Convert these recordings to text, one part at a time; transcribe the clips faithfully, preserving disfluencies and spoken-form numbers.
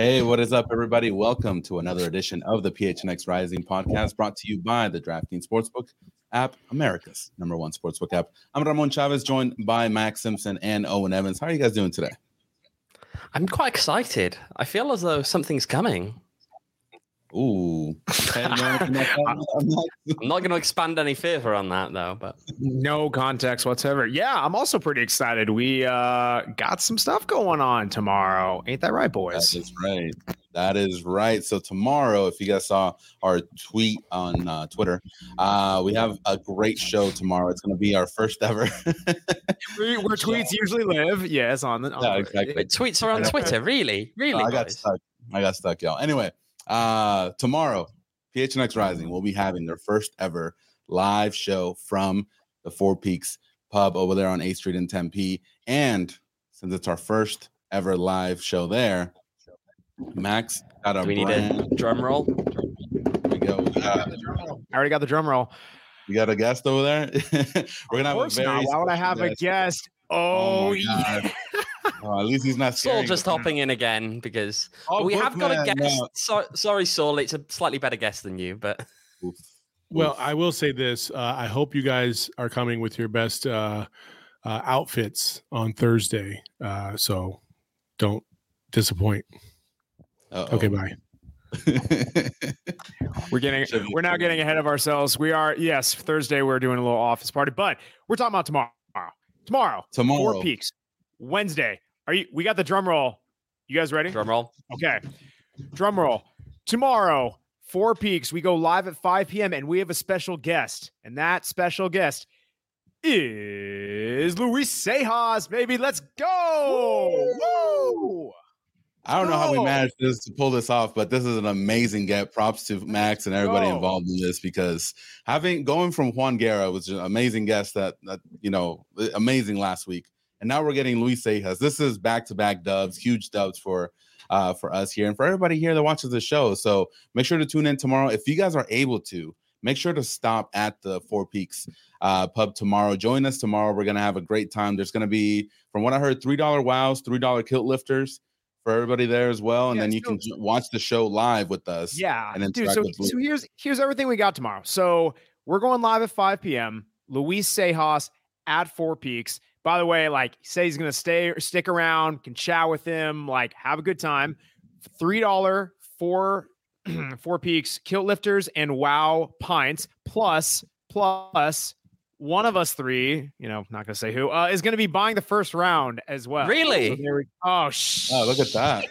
Hey, what is up, everybody? Welcome to another edition of the P H N X Rising podcast, brought to you by the DraftKings Sportsbook app, America's number one sportsbook app. I'm Ramon Chavez, joined by Max Simpson and Owen Evans. How are you guys doing today? I'm quite excited. I feel as though something's coming. Ooh. I'm not going to expand any further on that, though. But no context whatsoever. Yeah, I'm also pretty excited. We uh, got some stuff going on tomorrow. Ain't that right, boys? That is right. That is right. So tomorrow, if you guys saw our tweet on uh, Twitter, uh, we have a great show tomorrow. It's going to be our first ever. Where tweets usually live. Yes, on the on yeah, exactly. Wait, tweets are on Twitter. Really? Really? I got stuck. I got stuck, y'all. Anyway. Uh, tomorrow, P H N X Rising will be having their first ever live show from the Four Peaks pub over there on eighth Street in Tempe. And since it's our first ever live show there, Max got a Do we brand- need a drum roll. Here we go. We got, I already got the drum roll. You got a guest over there? We're gonna have a very. Not. Why would I have guest. a guest? Oh, oh yeah. Oh, at least he's not. Saul just hopping in again because oh, we have got man, a guest. No. So, sorry, Saul. It's a slightly better guest than you, but. Oof. Well, I will say this. Uh, I hope you guys are coming with your best uh, uh, outfits on Thursday. Uh, so don't disappoint. Uh-oh. Okay, bye. we're getting we're now getting ahead of ourselves. We are yes, Thursday we're doing a little office party, but we're talking about tomorrow. Tomorrow. Tomorrow. Four Peaks. Wednesday. Are you we got the drum roll. You guys ready? Drum roll. Okay. Drum roll. Tomorrow, Four Peaks. We go live at five p.m. and we have a special guest. And that special guest is Luis Sejas. Baby, let's go. Woo! Woo! I don't know how we managed this to pull this off, but this is an amazing get. Props to Max and everybody Go. involved in this, because having going from Juan Guerra was an amazing guest that that you know amazing last week, and now we're getting Luis Sejas. This is back to back dubs, huge dubs for uh, for us here and for everybody here that watches the show. So make sure to tune in tomorrow if you guys are able to. Make sure to stop at the Four Peaks uh, pub tomorrow. Join us tomorrow. We're gonna have a great time. There's gonna be, from what I heard, three dollar wows, three dollar kilt lifters for everybody there as well, and yeah, then you so, can watch the show live with us. Yeah, and dude. So, so here's here's everything we got tomorrow. So we're going live at five p.m. Luis Sejas at Four Peaks. By the way, like, say he's gonna stay stick around, can chat with him, like, have a good time. Three dollar four Four Peaks kilt lifters and wow pints plus plus. One of us three, you know, not gonna say who, uh, is gonna be buying the first round as well. Really? So we, oh, sh- oh, look at that!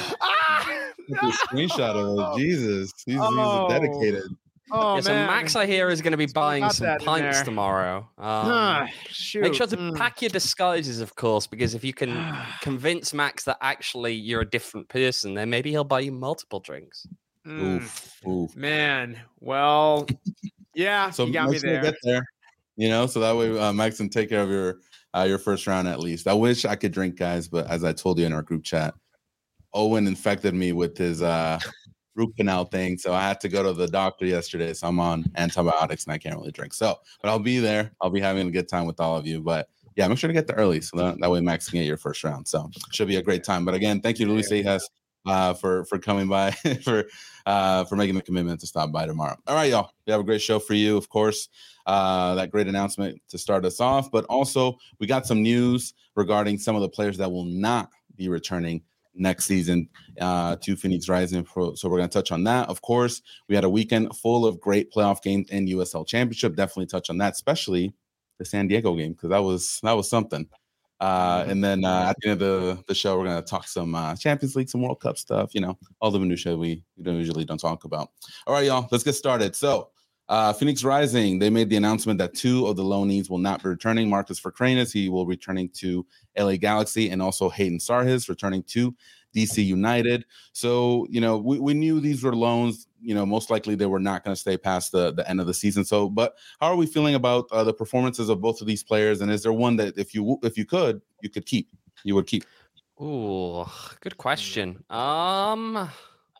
ah, Look at the screenshot of it. Jesus, he's, oh. he's dedicated. Oh, yeah, so man. Max, I hear, is going to be buying Got some pints tomorrow. Um, ah, shoot. Make sure to mm. pack your disguises, of course, because if you can convince Max that actually you're a different person, then maybe he'll buy you multiple drinks. Mm. Oof, oof, man. Well, yeah, so you got me there. Get there. You know, so that way uh, Max can take care of your uh, your first round at least. I wish I could drink, guys, but as I told you in our group chat, Owen infected me with his uh, root canal thing, so I had to go to the doctor yesterday. So I'm on antibiotics and I can't really drink. So, but I'll be there. I'll be having a good time with all of you. But yeah, make sure to get there early so that, that way Max can get your first round. So should be a great time. But again, thank you to Luis Sejas uh, for for coming by for uh, for making the commitment to stop by tomorrow. All right, y'all. We have a great show for you, of course. Uh, that great announcement to start us off, but also we got some news regarding some of the players that will not be returning next season uh, to Phoenix Rising. Pro. So we're going to touch on that. Of course, we had a weekend full of great playoff games and U S L Championship. Definitely touch on that, especially the San Diego game, because that was that was something. Uh, and then uh, at the end of the, the show, we're going to talk some uh, Champions League, some World Cup stuff, you know, all the minutiae we, we don't usually don't talk about. All right, y'all, let's get started. So Uh, Phoenix Rising, they made the announcement that two of the loanees will not be returning. Marcus Vercranis, he will be returning to L A Galaxy, and also Hayden Sarhis returning to D C United. So, you know, we, we knew these were loans. You know, most likely they were not going to stay past the, the end of the season. So, but how are we feeling about uh, the performances of both of these players? And is there one that if you if you could, you could keep, you would keep? Ooh, good question. Um...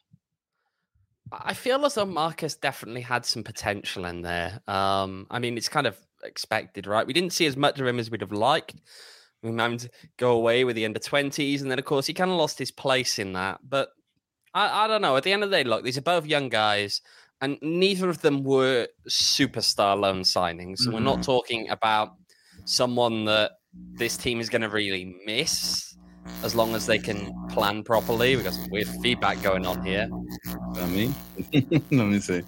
I feel as though Marcus definitely had some potential in there. Um, I mean, it's kind of expected, right? We didn't see as much of him as we'd have liked. We managed to go away with the under twenties, and then, of course, he kind of lost his place in that. But I, I don't know. At the end of the day, look, these are both young guys, and neither of them were superstar loan signings. So mm-hmm. we're not talking about someone that this team is going to really miss as long as they can plan properly. We've got some weird feedback going on here. I mean, let me see.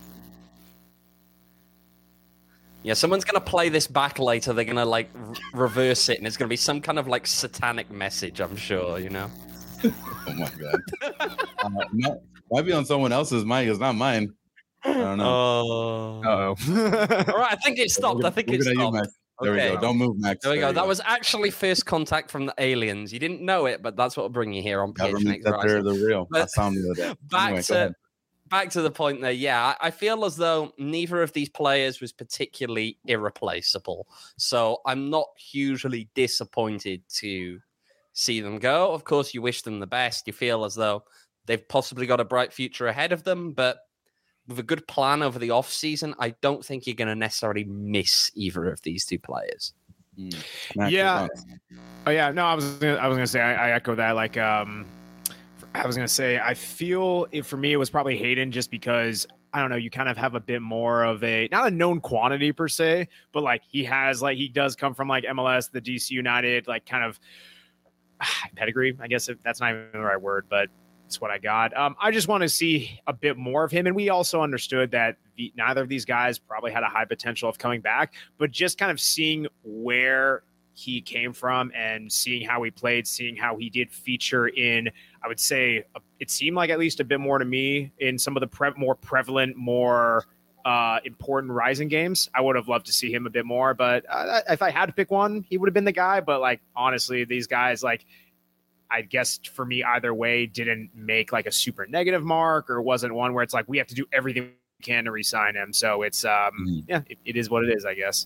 Yeah, someone's going to play this back later. They're going to like r- reverse it, and it's going to be some kind of like satanic message, I'm sure, you know? Oh my God. uh, might, might be on someone else's mic. It's not mine. I don't know. Oh. Uh-oh. All right, I think it stopped. I think it stopped. You, there okay. we go. Don't move, Max. There we there go. That go. was actually first contact from the aliens. You didn't know it, but that's what will bring you here on P H N X Rising. They're the real. But I found the other day. Back anyway, to back to the point there. Yeah, I feel as though neither of these players was particularly irreplaceable. So I'm not hugely disappointed to see them go. Of course, you wish them the best. You feel as though they've possibly got a bright future ahead of them, but with a good plan over the offseason, I don't think you're going to necessarily miss either of these two players. Mm. Yeah. Oh yeah. No, I was gonna, I was gonna say I, I echo that. Like, um, I was gonna say I feel it for me. It was probably Hayden, just because I don't know. You kind of have a bit more of a not a known quantity per se, but like he has like he does come from like M L S, the D C United, like kind of ah, pedigree. I guess if that's not even the right word, but it's what I got. Um, I just want to see a bit more of him, and we also understood that the, neither of these guys probably had a high potential of coming back, but just kind of seeing where he came from and seeing how he played, seeing how he did feature in, I would say, a, it seemed like at least a bit more to me in some of the pre- more prevalent, more uh, important Rising games. I would have loved to see him a bit more, but uh, if I had to pick one, he would have been the guy. But like, honestly, these guys, like, I guess for me, either way, didn't make like a super negative mark, or wasn't one where it's like, we have to do everything we can to re-sign him. So it's, um, mm-hmm. yeah, it, it is what it is, I guess.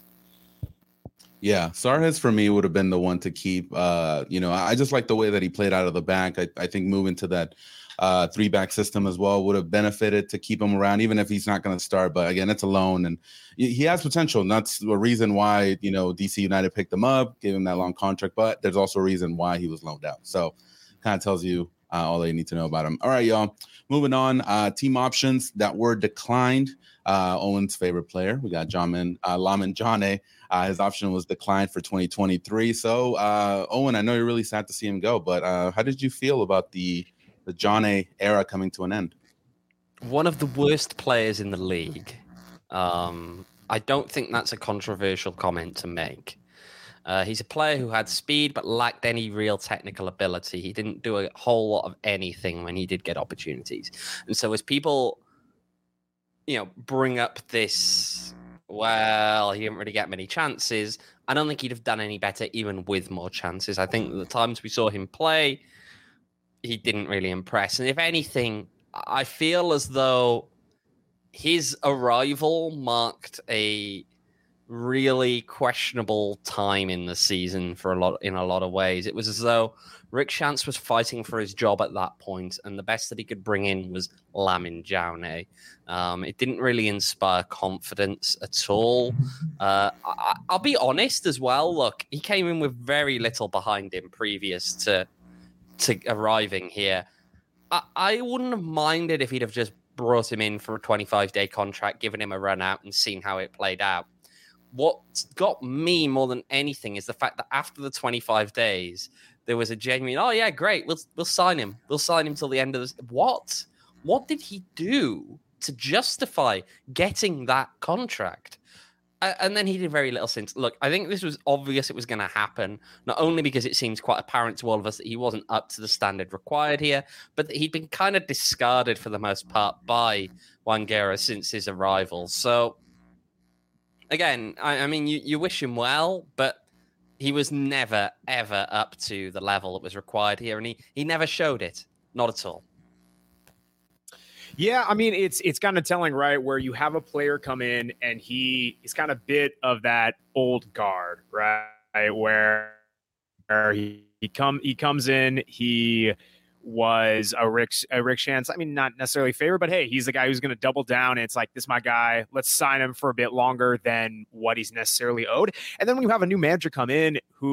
Yeah, Sarhis for me would have been the one to keep. Uh, you know, I just like the way that he played out of the back. I, I think moving to that uh, three back system as well would have benefited to keep him around, even if he's not going to start. But again, it's a loan, and he has potential. And that's the reason why, you know, D C United picked him up, gave him that long contract. But there's also a reason why he was loaned out. So kind of tells you uh, all they need to know about him. All right, y'all. Moving on. Uh, team options that were declined. Uh, Owen's favorite player. We got Jamin, uh, Lamin Jane. Uh, his option was declined for twenty twenty-three. So, uh, Owen, I know you're really sad to see him go, but uh, how did you feel about the the Jane era coming to an end? One of the worst players in the league. Um, I don't think that's a controversial comment to make. Uh, he's a player who had speed but lacked any real technical ability. He didn't do a whole lot of anything when he did get opportunities. And so as people, you know, bring up this, well, he didn't really get many chances, I don't think he'd have done any better even with more chances. I think the times we saw him play, he didn't really impress. And if anything, I feel as though his arrival marked a really questionable time in the season for a lot in a lot of ways. It was as though Rick Schantz was fighting for his job at that point, and the best that he could bring in was Lamin Jane. Um, it didn't really inspire confidence at all. Uh, I, I'll be honest as well. Look, he came in with very little behind him previous to to arriving here. I, I wouldn't have minded if he'd have just brought him in for a twenty-five day contract, given him a run out and seen how it played out. What got me more than anything is the fact that after the twenty-five days, there was a genuine, oh yeah, great, we'll we'll sign him. We'll sign him till the end of this. What? What did he do to justify getting that contract? Uh, and then he did very little since. Look, I think this was obvious it was going to happen, not only because it seems quite apparent to all of us that he wasn't up to the standard required here, but that he'd been kind of discarded for the most part by Wangera since his arrival. So, again, I, I mean, you, you wish him well, but he was never, ever up to the level that was required here, and he, he never showed it. Not at all. Yeah, I mean, it's it's kind of telling, right, where you have a player come in and he is kind of bit of that old guard, right, where, where he, he come he comes in, he was a Rick a Rick Schantz. I mean, not necessarily favorite, but hey, he's the guy who's going to double down. And it's like, this is my guy. Let's sign him for a bit longer than what he's necessarily owed. And then when you have a new manager come in who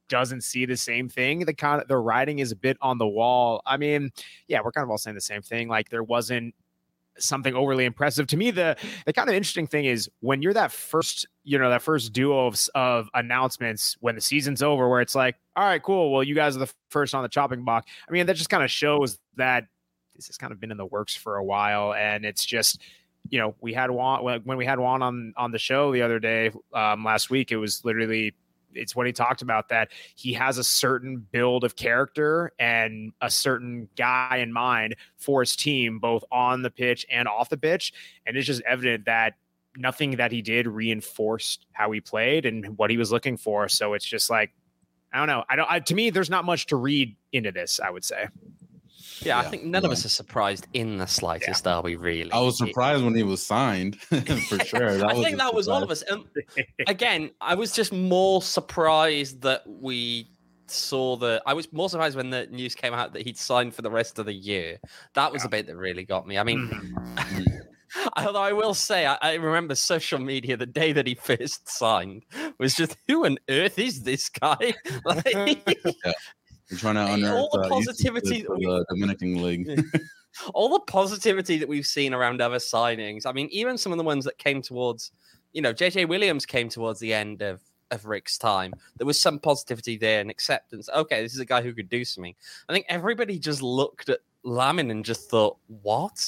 doesn't see the same thing. The kind of the writing is a bit on the wall. I mean, yeah, we're kind of all saying the same thing. Like there wasn't something overly impressive to me. The the kind of interesting thing is when you're that first, you know, that first duo of, of announcements when the season's over, where it's like, all right, cool. Well, you guys are the first on the chopping block. I mean, that just kind of shows that this has kind of been in the works for a while, and it's just, you know, we had Juan when we had Juan on on the show the other day, um, last week. It was literally, it's what he talked about, that he has a certain build of character and a certain guy in mind for his team, both on the pitch and off the pitch. And it's just evident that nothing that he did reinforced how he played and what he was looking for. So it's just like, I don't know. I don't, I, to me, there's not much to read into this, I would say. Yeah, Yeah, I think none yeah. of us are surprised in the slightest, are we really? I was surprised when he was signed, for sure. That I was think a that was all of surprise. us. Um, again, I was just more surprised that we saw the. I was more surprised when the news came out that he'd signed for the rest of the year. That was Yeah. the bit that really got me. I mean, Mhm. although I will say, I, I remember social media the day that he first signed was just, who on earth is this guy? Like, We're trying to All unearth the uh, positivity YouTube for that the Dominican League. all the positivity that we've seen around other signings. I mean, even some of the ones that came towards, you know, J J Williams came towards the end of, of Rick's time. There was some positivity there and acceptance. Okay, this is a guy who could do something. I think everybody just looked at Lamin and just thought, what?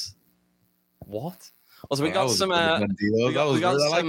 What? Also, we That got was a some. pretty Uh, good deal. we got- That was we got good. I like some-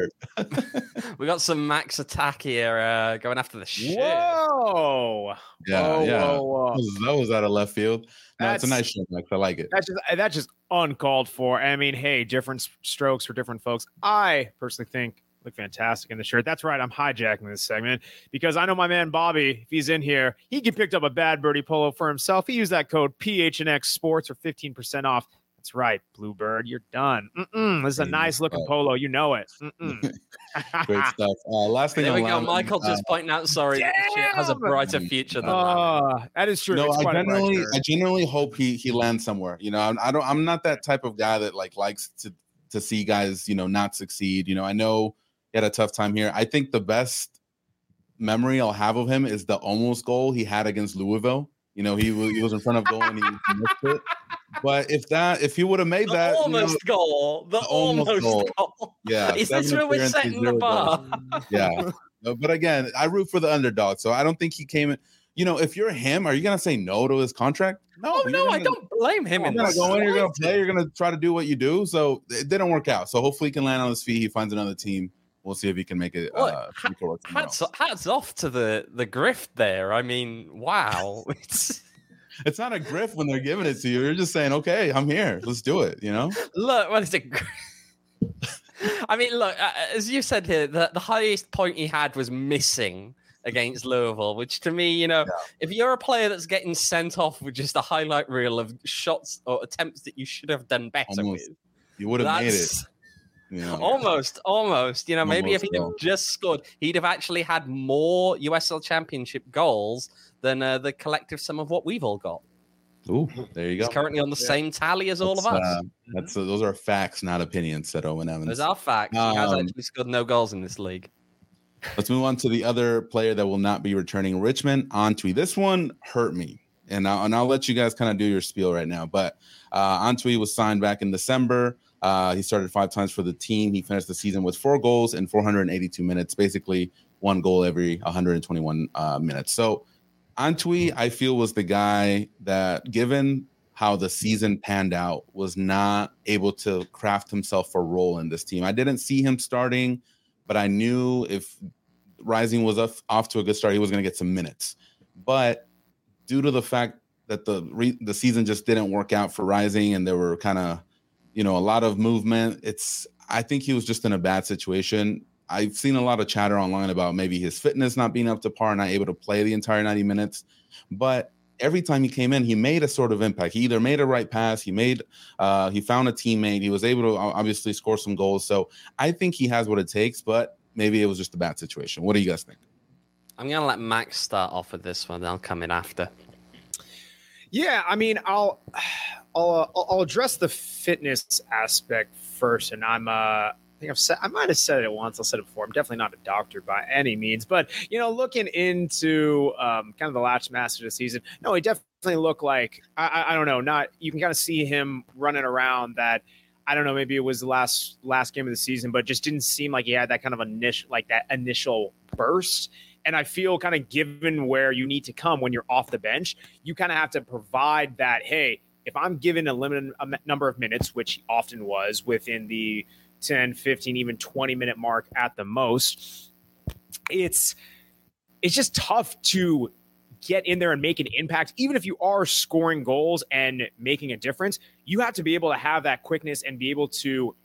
the shirt. we got some Max attack here uh, going after the shirt. Whoa. Yeah, whoa, yeah. Whoa, whoa. That was, that was out of left field. No, it's a That's- nice shirt, Max. I like it. That's just that's just uncalled for. I mean, hey, different s- strokes for different folks. I personally think look fantastic in the shirt. That's right. I'm hijacking this segment because I know my man Bobby, if he's in here, he can pick up a Bad Birdie polo for himself. He used that code P H N X Sports for fifteen percent off. That's right, Bluebird, you're done. Mm-mm, this is a Great nice looking stuff. polo. You know it. Mm-mm. Great stuff. Uh, last thing There on we go. Lamin, Michael uh, just pointing out, sorry, that the shirt has a Damn! brighter future than Lamin. Oh, that is true. No, It's I quite a bright genuinely, shirt. I genuinely hope he he lands somewhere. You know, I'm, I don't, I'm not that type of guy that like likes to to see guys, you know, not succeed. You know, I know he had a tough time here. I think the best memory I'll have of him is the almost goal he had against Louisville. You know, he was he was in front of goal and he missed it. But if that, if he would have made The that, you know, almost goal. The, the almost almost goal. goal. yeah, Is this seven where we're appearances, setting the zero goals. bar? Yeah. No, but again, I root for the underdog, so I don't think he came in. You know, if you're him, are you gonna say no to his contract? No, Oh, you're no, I gonna- don't blame him You're in gonna this. go in, you're gonna play, you're gonna try to do what you do. So it didn't work out. So hopefully he can land on his feet. He finds another team. We'll see if he can make it. Look, Uh, ha- make it work somewhere Hats, else. hats off to the, the grift there. I mean, wow. It's, It's not a grift when they're giving it to you. You're just saying, okay, I'm here. Let's do it. You know? look, what is it? I mean, look, uh, as you said here, the, the highest point he had was missing against Louisville, which to me, you know, Yeah. if you're a player that's getting sent off with just a highlight reel of shots or attempts that you should have done better Almost. with, You would have made it. that's- You know? Almost, almost. You know, maybe if Almost, he'd though. have just scored, he'd have actually had more U S L Championship goals than uh, the collective sum of what we've all got. Ooh, there you He's go. currently on the same tally as all of That's, us. uh, that's uh, those are facts, not opinions, said Owen Evans. Those are facts. He has um, actually scored no goals in this league. Let's move on to the other player that will not be returning, Richmond Antwi. This one hurt me, and I'll, and I'll let you guys kind of do your spiel right now. But uh, Antwi was signed back in December. Uh, he started five times for the team. He finished the season with four goals in four hundred eighty-two minutes, basically one goal every one hundred twenty-one uh, minutes. So Antwi, I feel, was the guy that, given how the season panned out, was not able to craft himself a role in this team. I didn't see him starting, but I knew if Rising was off, off to a good start, he was going to get some minutes. But due to the fact that the re, the season just didn't work out for Rising, and there were kind of, you know, a lot of movement, it's I think he was just in a bad situation. I've seen a lot of chatter online about maybe his fitness not being up to par, not able to play the entire ninety minutes. But every time he came in, he made a sort of impact. He either made a right pass, he made, uh, he found a teammate, he was able to obviously score some goals. So I think he has what it takes, but maybe it was just a bad situation. What do you guys think? I'm going to let Max start off with this one. I'll come in after. Yeah, I mean, I'll I'll uh, I'll I'll address the fitness aspect first, and I'm uh I think I've said, I might have said it once. I'll said it before. I'm definitely not a doctor by any means, but you know, looking into um, kind of the last match of the season, no, he definitely looked like, I, I don't know, not, you can kind of see him running around that. I don't know, maybe it was the last, last game of the season, but just didn't seem like he had that kind of initial, like that initial burst. And I feel kind of given where you need to come when you're off the bench, you kind of have to provide that, hey, if I'm given a limited number of minutes, which he often was within the ten, fifteen, even twenty minute mark at the most, it's it's just tough to get in there and make an impact. Even if you are scoring goals and making a difference, you have to be able to have that quickness and be able to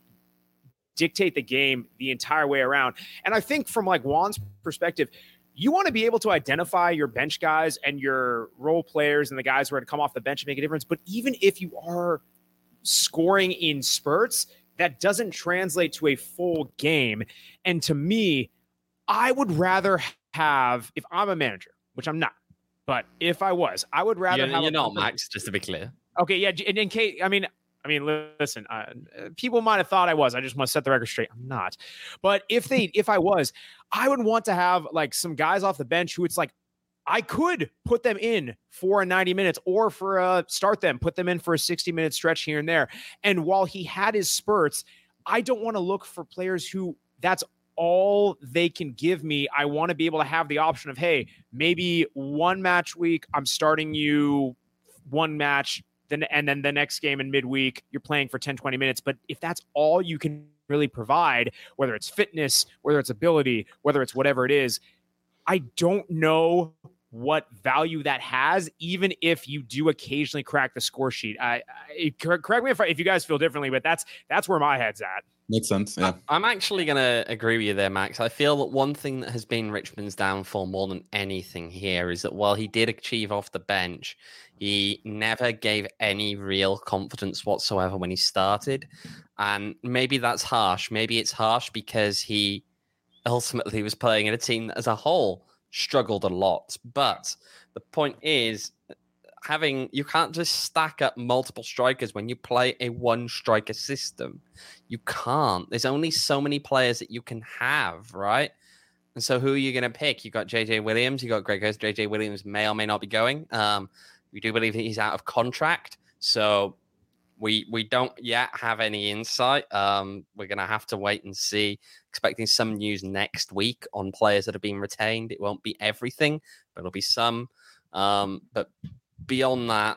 dictate the game the entire way around. And I think from like Juan's perspective, you want to be able to identify your bench guys and your role players and the guys who are to come off the bench and make a difference. But even if you are scoring in spurts, that doesn't translate to a full game. And to me, I would rather have, if I'm a manager, which I'm not, but if I was, I would rather you're, have. You're a not, Max, just to be clear. Okay, yeah. In, in case, I mean, I mean, listen, uh, people might have thought I was. I just want to set the record straight. I'm not. But if they, if I was, I would want to have like some guys off the bench who it's like, I could put them in for a ninety minutes or for a start them, put them in for a sixty minute stretch here and there. And while he had his spurts, I don't want to look for players who that's all they can give me. I want to be able to have the option of, hey, maybe one match week, I'm starting you one match, then and then the next game in midweek, you're playing for ten, twenty minutes. But if that's all you can really provide, whether it's fitness, whether it's ability, whether it's whatever it is, I don't know what value that has, even if you do occasionally crack the score sheet. I, I correct me if, I, if you guys feel differently, but that's that's where my head's at. Makes sense. Yeah, I'm actually going to agree with you there, Max. I feel that one thing that has been Richmond's downfall more than anything here is that while he did achieve off the bench, he never gave any real confidence whatsoever when he started. And maybe that's harsh. Maybe it's harsh because he ultimately was playing in a team that as a whole struggled a lot. But the point is, having you can't just stack up multiple strikers when you play a one striker system. You can't. There's only so many players that you can have, right? And so who are you going to pick? You got J J Williams, you got Greg Hurst. J J Williams may or may not be going. Um, we do believe that he's out of contract, so we we don't yet have any insight. Um, we're going to have to wait and see. Expecting some news next week on players that have been retained. It won't be everything, but it'll be some. Um, but beyond that,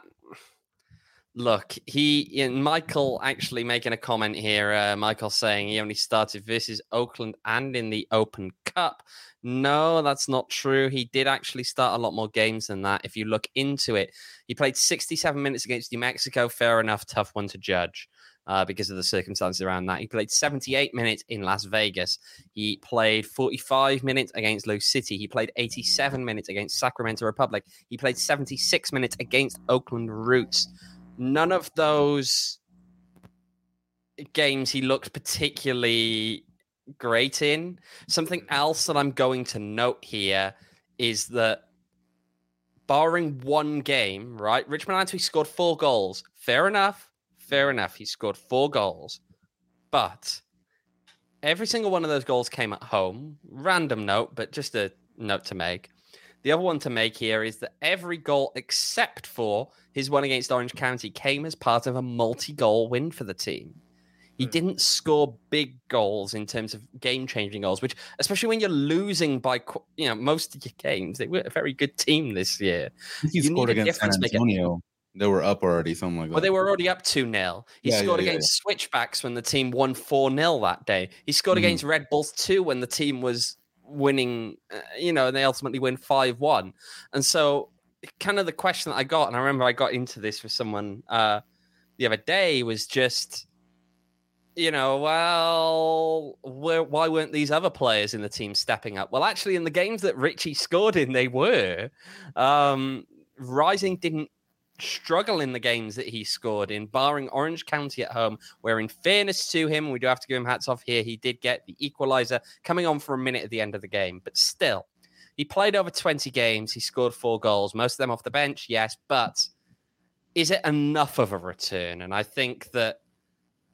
look, he and Michael actually making a comment here. Uh, Michael saying he only started versus Oakland and in the Open Cup. No, that's not true. He did actually start a lot more games than that. If you look into it, he played sixty-seven minutes against New Mexico. Fair enough, tough one to judge uh, because of the circumstances around that. He played seventy-eight minutes in Las Vegas. He played forty-five minutes against Lou City. He played eighty-seven minutes against Sacramento Republic. He played seventy-six minutes against Oakland Roots. None of those games he looked particularly great in. Something else that I'm going to note here is that barring one game, right, Richmond actually scored four goals. Fair enough. Fair enough. He scored four goals. But every single one of those goals came at home. Random note, but just a note to make. The other one to make here is that every goal except for his one against Orange County came as part of a multi-goal win for the team. He didn't score big goals in terms of game-changing goals, which, especially when you're losing by, you know, most of your games, they were a very good team this year. He you scored against San Antonio. They were up already, something like that. Well, they were already up two nil. He yeah, scored yeah, against yeah. Switchbacks when the team won four nil that day. He scored mm-hmm. against Red Bulls two when the team was winning, uh, you know, and they ultimately win five one. And so kind of the question that I got, and I remember I got into this with someone uh, the other day, was just, you know, well, where, why weren't these other players in the team stepping up? Well, actually, in the games that Richie scored in, they were. Um, Rising didn't struggle in the games that he scored in, barring Orange County at home, where in fairness to him, we do have to give him hats off here, he did get the equalizer coming on for a minute at the end of the game. But still, he played over twenty games. He scored four goals, most of them off the bench, yes. But is it enough of a return? And I think that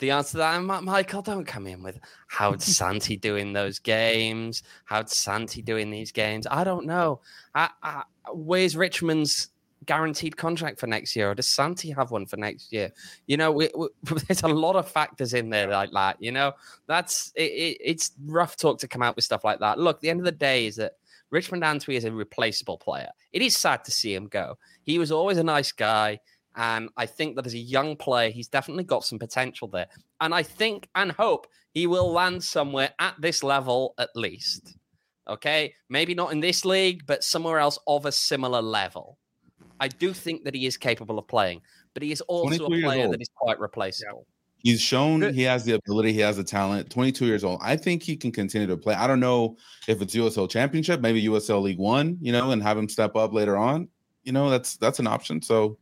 the answer to that, Michael, don't come in with how'd Santi do in those games? How'd Santi do in these games? I don't know. I, I, where's Richmond's guaranteed contract for next year? Or does Santi have one for next year? You know, we, we, there's a lot of factors in there like that. You know, that's it, it, it's rough talk to come out with stuff like that. Look, the end of the day is that Richmond Antwi is a replaceable player. It is sad to see him go. He was always a nice guy. And I think that as a young player, he's definitely got some potential there. And I think and hope he will land somewhere at this level at least. Okay? Maybe not in this league, but somewhere else of a similar level. I do think that he is capable of playing, but he is also a player that is quite replaceable. He's shown he has the ability, he has the talent. twenty-two years old. I think he can continue to play. I don't know if it's U S L Championship, maybe U S L League One, you know, and have him step up later on. You know, that's that's an option. So,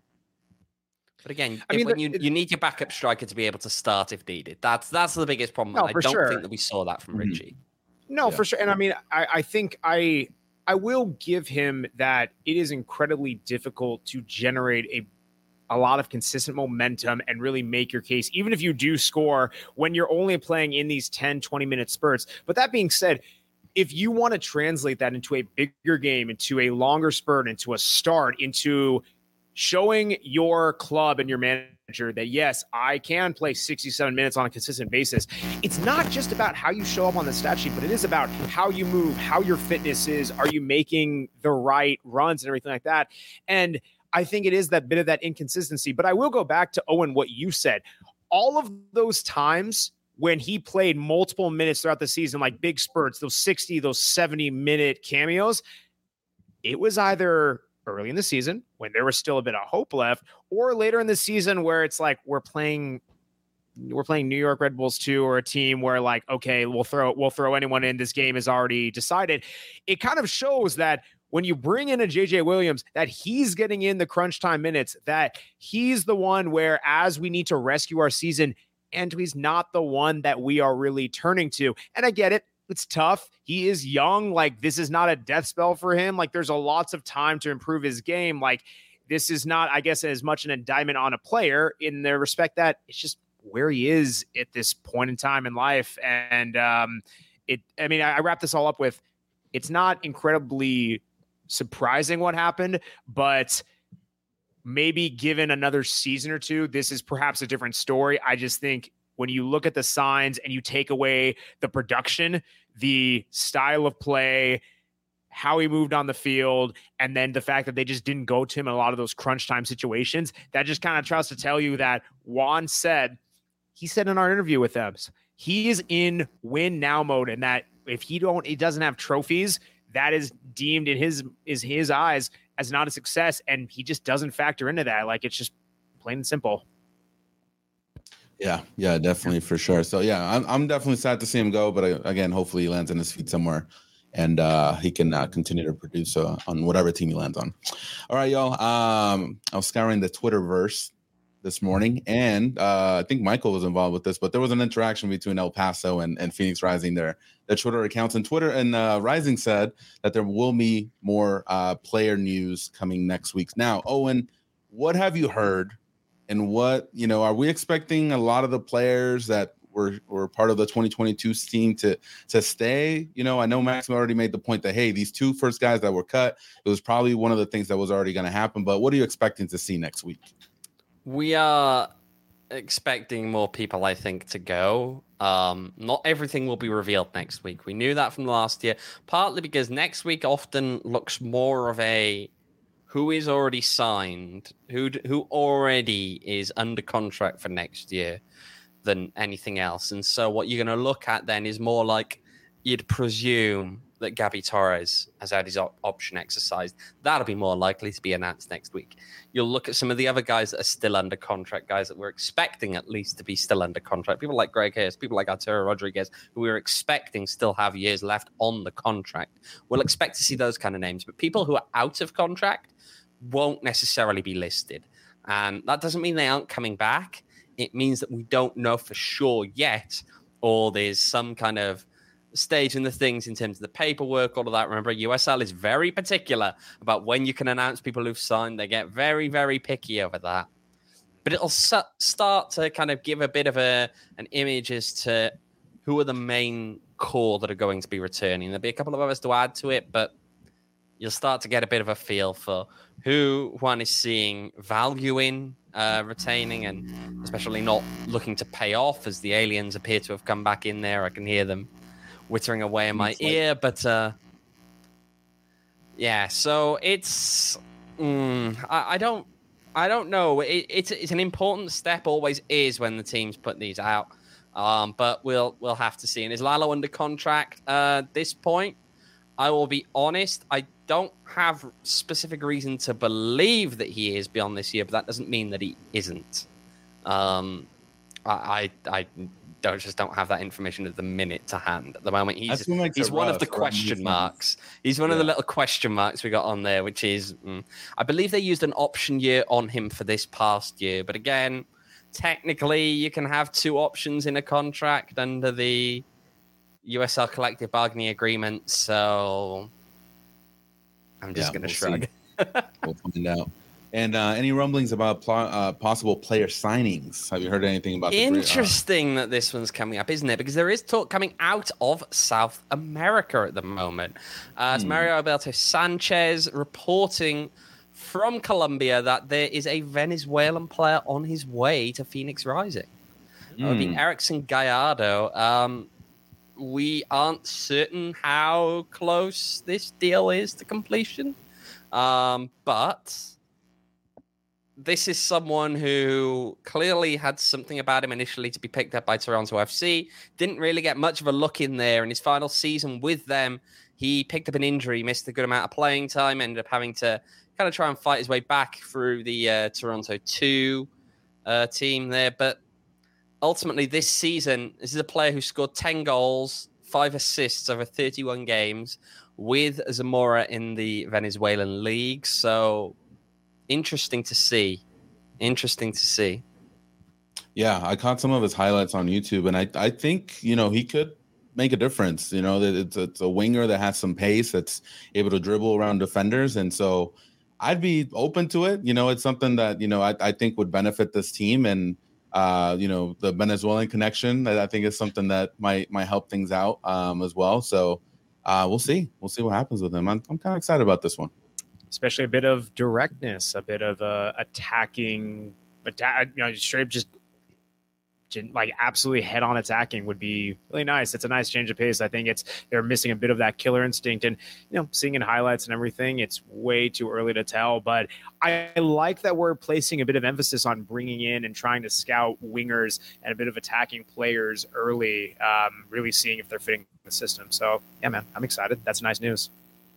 but again, I mean, when you, you need your backup striker to be able to start if needed. That's that's the biggest problem. No, I don't sure. think that we saw that from mm-hmm. Richie. No, yeah. for sure. And I mean, I, I think I I will give him that it is incredibly difficult to generate a a lot of consistent momentum and really make your case, even if you do score when you're only playing in these ten, twenty minute spurts. But that being said, if you want to translate that into a bigger game, into a longer spurt, into a start, into showing your club and your manager that, yes, I can play sixty-seven minutes on a consistent basis. It's not just about how you show up on the stat sheet, but it is about how you move, how your fitness is. Are you making the right runs and everything like that? And I think it is that bit of that inconsistency. But I will go back to, Owen, what you said. All of those times when he played multiple minutes throughout the season, like big spurts, those sixty, those seventy-minute cameos, it was either early in the season when there was still a bit of hope left, or later in the season where it's like we're playing we're playing New York Red Bulls two, or a team where like, okay, we'll throw we'll throw anyone in. This game is already decided. It kind of shows that when you bring in a J J Williams, that he's getting in the crunch time minutes, that he's the one where, as we need to rescue our season, Antwi's not the one that we are really turning to. And I get it. It's tough. He is young. Like, this is not a death spell for him. Like, there's a lots of time to improve his game. Like, this is not, I guess, as much an indictment on a player in the respect that it's just where he is at this point in time in life. And um, it, I mean, I, I wrap this all up with, it's not incredibly surprising what happened, but maybe given another season or two, this is perhaps a different story. I just think when you look at the signs and you take away the production, the style of play, how he moved on the field, and then the fact that they just didn't go to him in a lot of those crunch time situations, that just kind of tries to tell you that Juan said, he said in our interview with them, he is in win now mode, and that if he don't, he doesn't have trophies, that is deemed in his is his eyes as not a success, and he just doesn't factor into that. Like, it's just plain and simple. Yeah, yeah, definitely, for sure. So yeah, I'm I'm definitely sad to see him go, but uh, again, hopefully he lands on his feet somewhere, and uh, he can uh, continue to produce uh, on whatever team he lands on. All right, y'all. Um, I was scouring the Twitterverse this morning, and uh, I think Michael was involved with this, but there was an interaction between El Paso and, and Phoenix Rising, their their Twitter accounts, and Twitter and uh, Rising said that there will be more uh, player news coming next week. Now, Owen, what have you heard, and what, you know, are we expecting a lot of the players that were were part of the twenty twenty-two team to to stay? You know, I know Maxim already made the point that, hey, these two first guys that were cut, it was probably one of the things that was already going to happen, but what are you expecting to see next week? We are expecting more people, I think, to go. Um, not everything will be revealed next week. We knew that from last year, partly because next week often looks more of a who is already signed, who who already is under contract for next year than anything else. And so what you're going to look at then is more like you'd presume that Gabby Torres has had his op- option exercised. That'll be more likely to be announced next week. You'll look at some of the other guys that are still under contract, guys that we're expecting at least to be still under contract. People like Greg Hayes, people like Arturo Rodriguez, who we're expecting still have years left on the contract. We'll expect to see those kind of names, but people who are out of contract won't necessarily be listed. And that doesn't mean they aren't coming back. It means that we don't know for sure yet, or there's some kind of stage in the things in terms of the paperwork, all of that. Remember, U S L is very particular about when you can announce people who've signed. They get very, very picky over that. but it'll su- start to kind of give a bit of a an image as to who are the main core that are going to be returning. There'll be a couple of others to add to it, but you'll start to get a bit of a feel for who one is seeing value in uh, retaining, and especially not looking to pay off, as the aliens appear to have come back in there. I can hear them whittering away in my it's ear, like... but uh, yeah. So it's mm, I, I don't I don't know. It, it's it's an important step, always is, when the teams put these out. Um, but we'll we'll have to see. And is Lalo under contract uh, at this point? I will be honest, I don't have specific reason to believe that he is beyond this year, but that doesn't mean that he isn't. Um, I, I I don't just don't have that information at the minute to hand. At the moment, he's he's one rough, of the question marks. He's one yeah. of the little question marks we got on there, which is, mm, I believe they used an option year on him for this past year. But again, technically, you can have two options in a contract under the U S L collective bargaining agreement, so I'm just yeah, going to we'll shrug. We'll find out. And uh, any rumblings about pl- uh, possible player signings? Have you heard anything about? Interesting the, uh... that this one's coming up, isn't it? Because there is talk coming out of South America at the moment. Uh, it's hmm. Mario Alberto Sanchez reporting from Colombia that there is a Venezuelan player on his way to Phoenix Rising. Hmm. That would be Erickson Gallardo. Um, We aren't certain how close this deal is to completion, um, but this is someone who clearly had something about him initially to be picked up by Toronto F C. Didn't really get much of a look in there. In his final season with them, he picked up an injury, missed a good amount of playing time, ended up having to kind of try and fight his way back through the uh, Toronto two uh, team there, but ultimately, this season, this is a player who scored ten goals, five assists over thirty-one games with Zamora in the Venezuelan league. So, interesting to see. Interesting to see. Yeah, I caught some of his highlights on YouTube, and I, I think, you know, he could make a difference. You know, that it's, it's a winger that has some pace, that's able to dribble around defenders. And so I'd be open to it. You know, it's something that, you know, I, I think would benefit this team. And Uh, you know, the Venezuelan connection, I think is something that might might help things out um, as well. So uh, we'll see. We'll see what happens with him. I'm, I'm kind of excited about this one. Especially a bit of directness, a bit of uh, attacking, atta- you know, straight up just like absolutely head on attacking would be really nice. It's a nice change of pace. I think it's they're missing a bit of that killer instinct, and you know, seeing in highlights and everything, it's way too early to tell. But I like that we're placing a bit of emphasis on bringing in and trying to scout wingers and a bit of attacking players early, um, really seeing if they're fitting the system. So yeah, man, I'm excited. That's nice news.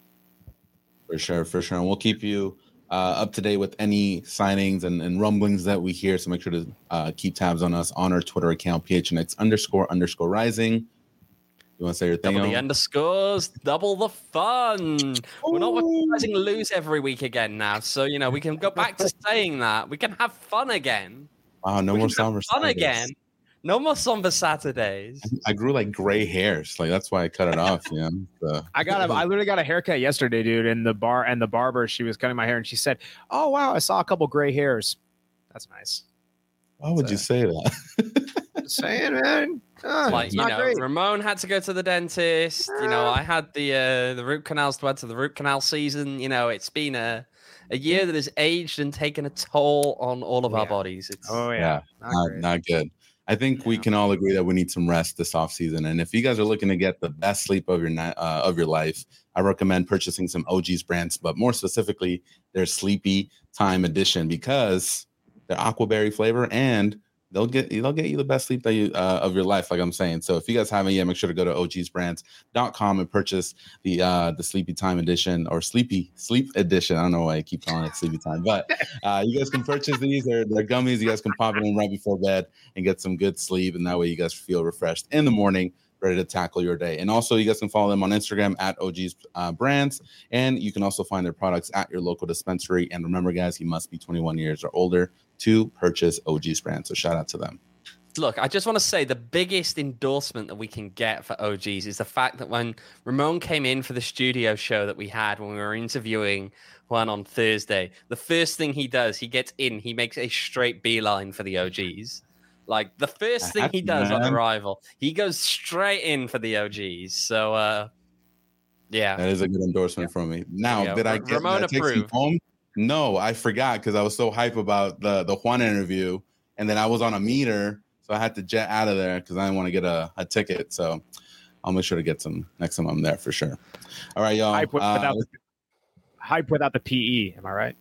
For sure, for sure. And we'll keep you Uh, up to date with any signings and, and rumblings that we hear. So make sure to uh, keep tabs on us on our Twitter account, P H N X underscore underscore rising. You want to say your thing? Double the underscores, double the fun. Ooh. We're not watching lose every week again now. So, you know, we can go back to saying that. We can have fun again. Wow, no we more somber fun Saturdays. again. No more somber Saturdays. I grew like gray hairs, like that's why I cut it off. You know, so. I got a, I literally got a haircut yesterday, dude. In the bar, and the barber, she was cutting my hair, and she said, "Oh wow, I saw a couple gray hairs." That's nice. Why would so, you say that? Just saying, man. Oh, like you know, great. Ramon had to go to the dentist. You know, I had the uh, the root canals to add to the root canal season. You know, it's been a a year that has aged and taken a toll on all of yeah. our bodies. It's oh yeah, yeah not, not, not good. I think yeah. we can all agree that we need some rest this offseason. And if you guys are looking to get the best sleep of your night, uh, of your life, I recommend purchasing some O G's brands, but more specifically, their Sleepy Time Edition, because they're aquaberry flavor and they'll get they'll get you the best sleep that you uh, of your life, like I'm saying. So if you guys haven't yet, make sure to go to O Gs brands dot com and purchase the uh, the Sleepy Time Edition or Sleepy Sleep Edition. I don't know why I keep calling it Sleepy Time, but uh, you guys can purchase these. They're, they're gummies. You guys can pop it in right before bed and get some good sleep, and that way you guys feel refreshed in the morning, ready to tackle your day. And also, you guys can follow them on Instagram at O G's uh, Brands, and you can also find their products at your local dispensary. And remember, guys, you must be twenty-one years or older to purchase O G's Brands. So shout out to them. Look, I just want to say the biggest endorsement that we can get for O Gs is the fact that when Ramon came in for the studio show that we had when we were interviewing Juan on Thursday, the first thing he does, he gets in, he makes a straight beeline for the O Gs. Like, the first thing he does on arrival, he goes straight in for the O Gs. So, uh, yeah. That is a good endorsement yeah. from me. Now, did I get Ramon did I take home? No, I forgot because I was so hype about the, the Juan interview, and then I was on a meter. So I had to jet out of there because I didn't want to get a, a ticket. So I'll make sure to get some next time I'm there for sure. All right, y'all. Hype, with, uh, without, the, hype without the P E. Am I right?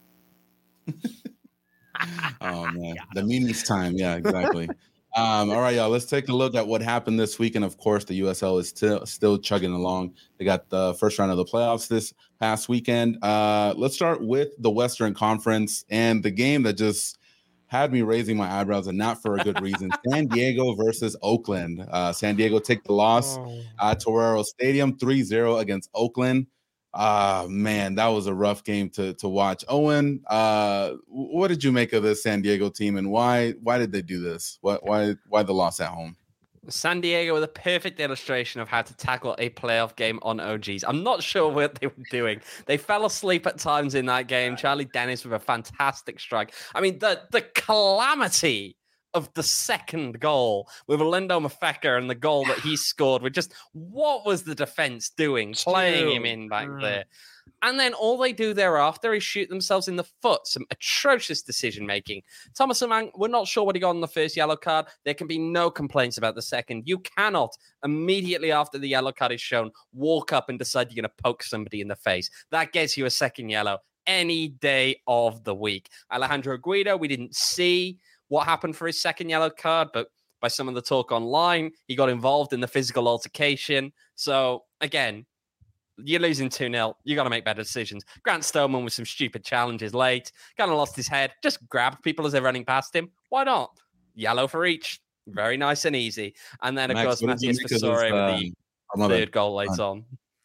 Oh, man. The meetings time. Yeah, exactly. um, all right, y'all. Let's take a look at what happened this week. And, of course, the U S L is still, still chugging along. They got the first round of the playoffs this past weekend. Uh, let's start with the Western Conference and the game that just – had me raising my eyebrows, and not for a good reason. San Diego versus Oakland. Uh, San Diego take the loss oh. at Torero Stadium, three zero against Oakland. Uh, man, that was a rough game to to watch. Owen, uh, what did you make of this San Diego team, and why why did they do this? What why why the loss at home? San Diego with a perfect illustration of how to tackle a playoff game on O Gs. I'm not sure what they were doing. They fell asleep at times in that game. Charlie Dennis with a fantastic strike. I mean, the the calamity of the second goal with Lindo Mafeka and the goal that he scored with just what was the defense doing, playing him in back there? And then all they do thereafter is shoot themselves in the foot. Some atrocious decision-making. Thomas Amang, we're not sure what he got on the first yellow card. There can be no complaints about the second. You cannot, immediately after the yellow card is shown, walk up and decide you're going to poke somebody in the face. That gets you a second yellow any day of the week. Alejandro Guido, we didn't see what happened for his second yellow card, but by some of the talk online, he got involved in the physical altercation. So, again, you're losing two nil. You got to make better decisions. Grant Stoneman with some stupid challenges late. Kind of lost his head. Just grabbed people as they're running past him. Why not? Yellow for each. Very nice and easy. And then, of Max, course, Matthias Fasore uh, with the third it. goal late on.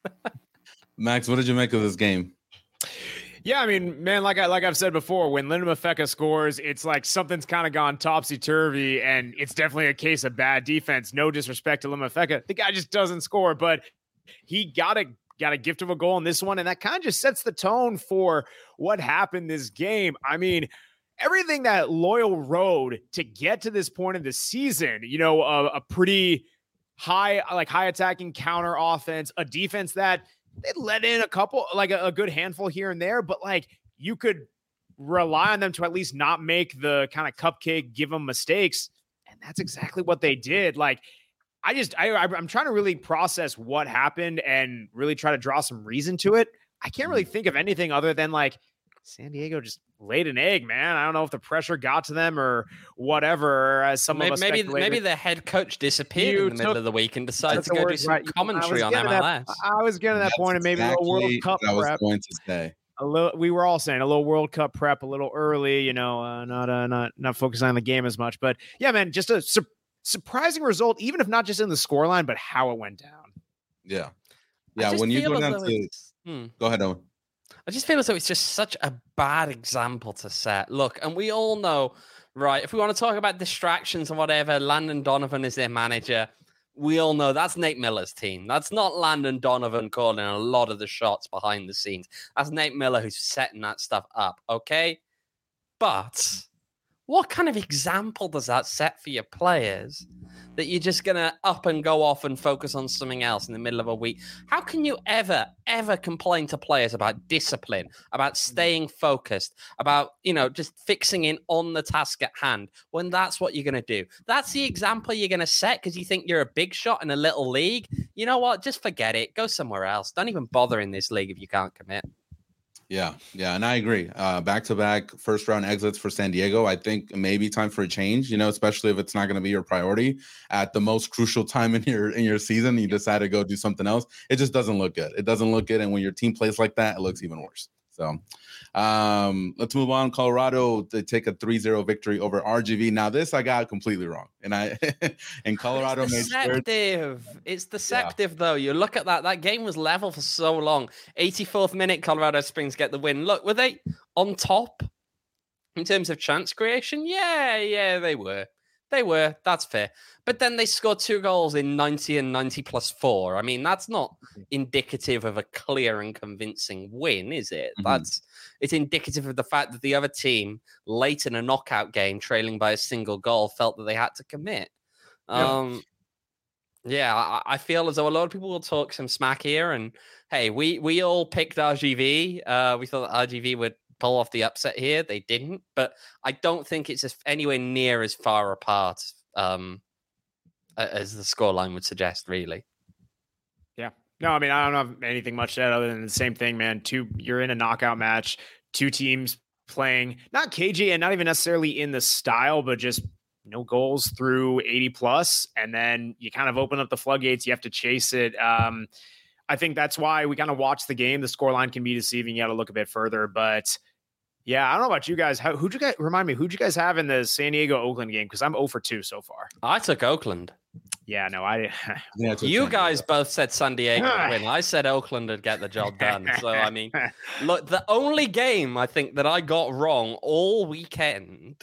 Max, what did you make of this game? Yeah, I mean, man, like I like I've said before, when Lindo Mafeka scores, it's like something's kind of gone topsy-turvy, and it's definitely a case of bad defense. No disrespect to Lindo Mafeka. The guy just doesn't score, but he got a got a gift of a goal in this one, and that kind of just sets the tone for what happened this game. I mean, everything that Loyal rode to get to this point of the season, you know, a, a pretty high, like high attacking counter offense, a defense that they let in a couple, like a, a good handful here and there, but like you could rely on them to at least not make the kind of cupcake, give them mistakes. And that's exactly what they did. Like, I just, I, I'm trying to really process what happened and really try to draw some reason to it. I can't really think of anything other than like San Diego just laid an egg, man. I don't know if the pressure got to them or whatever. As some maybe, of us maybe, maybe the head coach disappeared you in the middle took, of the week and decided to go do some right. commentary on M L S. That, I was getting to that That's point, and maybe exactly a World Cup what I was prep. going to say. A little, we were all saying a little World Cup prep, a little early, you know, uh, not uh, not not focusing on the game as much. But yeah, man, just a su- surprising result, even if not just in the scoreline, but how it went down. Yeah, yeah. When you go down to, hmm. go ahead, Owen. I just feel as though it's just such a bad example to set. Look, and we all know, right? If we want to talk about distractions and whatever, Landon Donovan is their manager. We all know that's Nate Miller's team. That's not Landon Donovan calling a lot of the shots behind the scenes. That's Nate Miller who's setting that stuff up, okay? But what kind of example does that set for your players that you're just going to up and go off and focus on something else in the middle of a week? How can you ever, ever complain to players about discipline, about staying focused, about, you know, just fixing in on the task at hand when that's what you're going to do? That's the example you're going to set because you think you're a big shot in a little league. You know what? Just forget it. Go somewhere else. Don't even bother in this league if you can't commit. Yeah, yeah, and I agree. Uh, back-to-back first-round exits for San Diego. I think maybe time for a change, you know, especially if it's not going to be your priority at the most crucial time in your in your season. You decide to go do something else. It just doesn't look good. It doesn't look good, and when your team plays like that, it looks even worse. So um, let's move on. Colorado, they take a three zero victory over R G V. Now, this I got completely wrong. And I and Colorado it's made deceptive. Sure. It's deceptive, yeah. though. You look at that. That game was level for so long. eighty-fourth minute, Colorado Springs get the win. Look, were they on top in terms of chance creation? Yeah, yeah, they were. They were. That's fair. But then they scored two goals in ninety and ninety plus four. I mean, that's not indicative of a clear and convincing win, is it? Mm-hmm. That's it's indicative of the fact that the other team, late in a knockout game, trailing by a single goal, felt that they had to commit. Yeah. Um, yeah, I, I feel as though a lot of people will talk some smack here. And hey, we we all picked R G V. Uh, we thought that R G V would pull off the upset here. They didn't, but I don't think it's anywhere near as far apart um, as the scoreline would suggest, really. Yeah. No, I mean, I don't have anything much to add other than the same thing, man. Two, you're in a knockout match, two teams playing not cagey and not even necessarily in the style, but just no goals through eighty plus. And then you kind of open up the floodgates. You have to chase it. Um, I think that's why we kind of watch the game. The scoreline can be deceiving. You got to look a bit further, but yeah, I don't know about you guys. How, who'd you guys remind me? Who'd you guys have in the San Diego Oakland game? Because I'm zero for two so far. I took Oakland. Yeah, no, I. yeah, I you guys both said San Diego would win. I said Oakland would get the job done. So I mean, look, the only game I think that I got wrong all weekend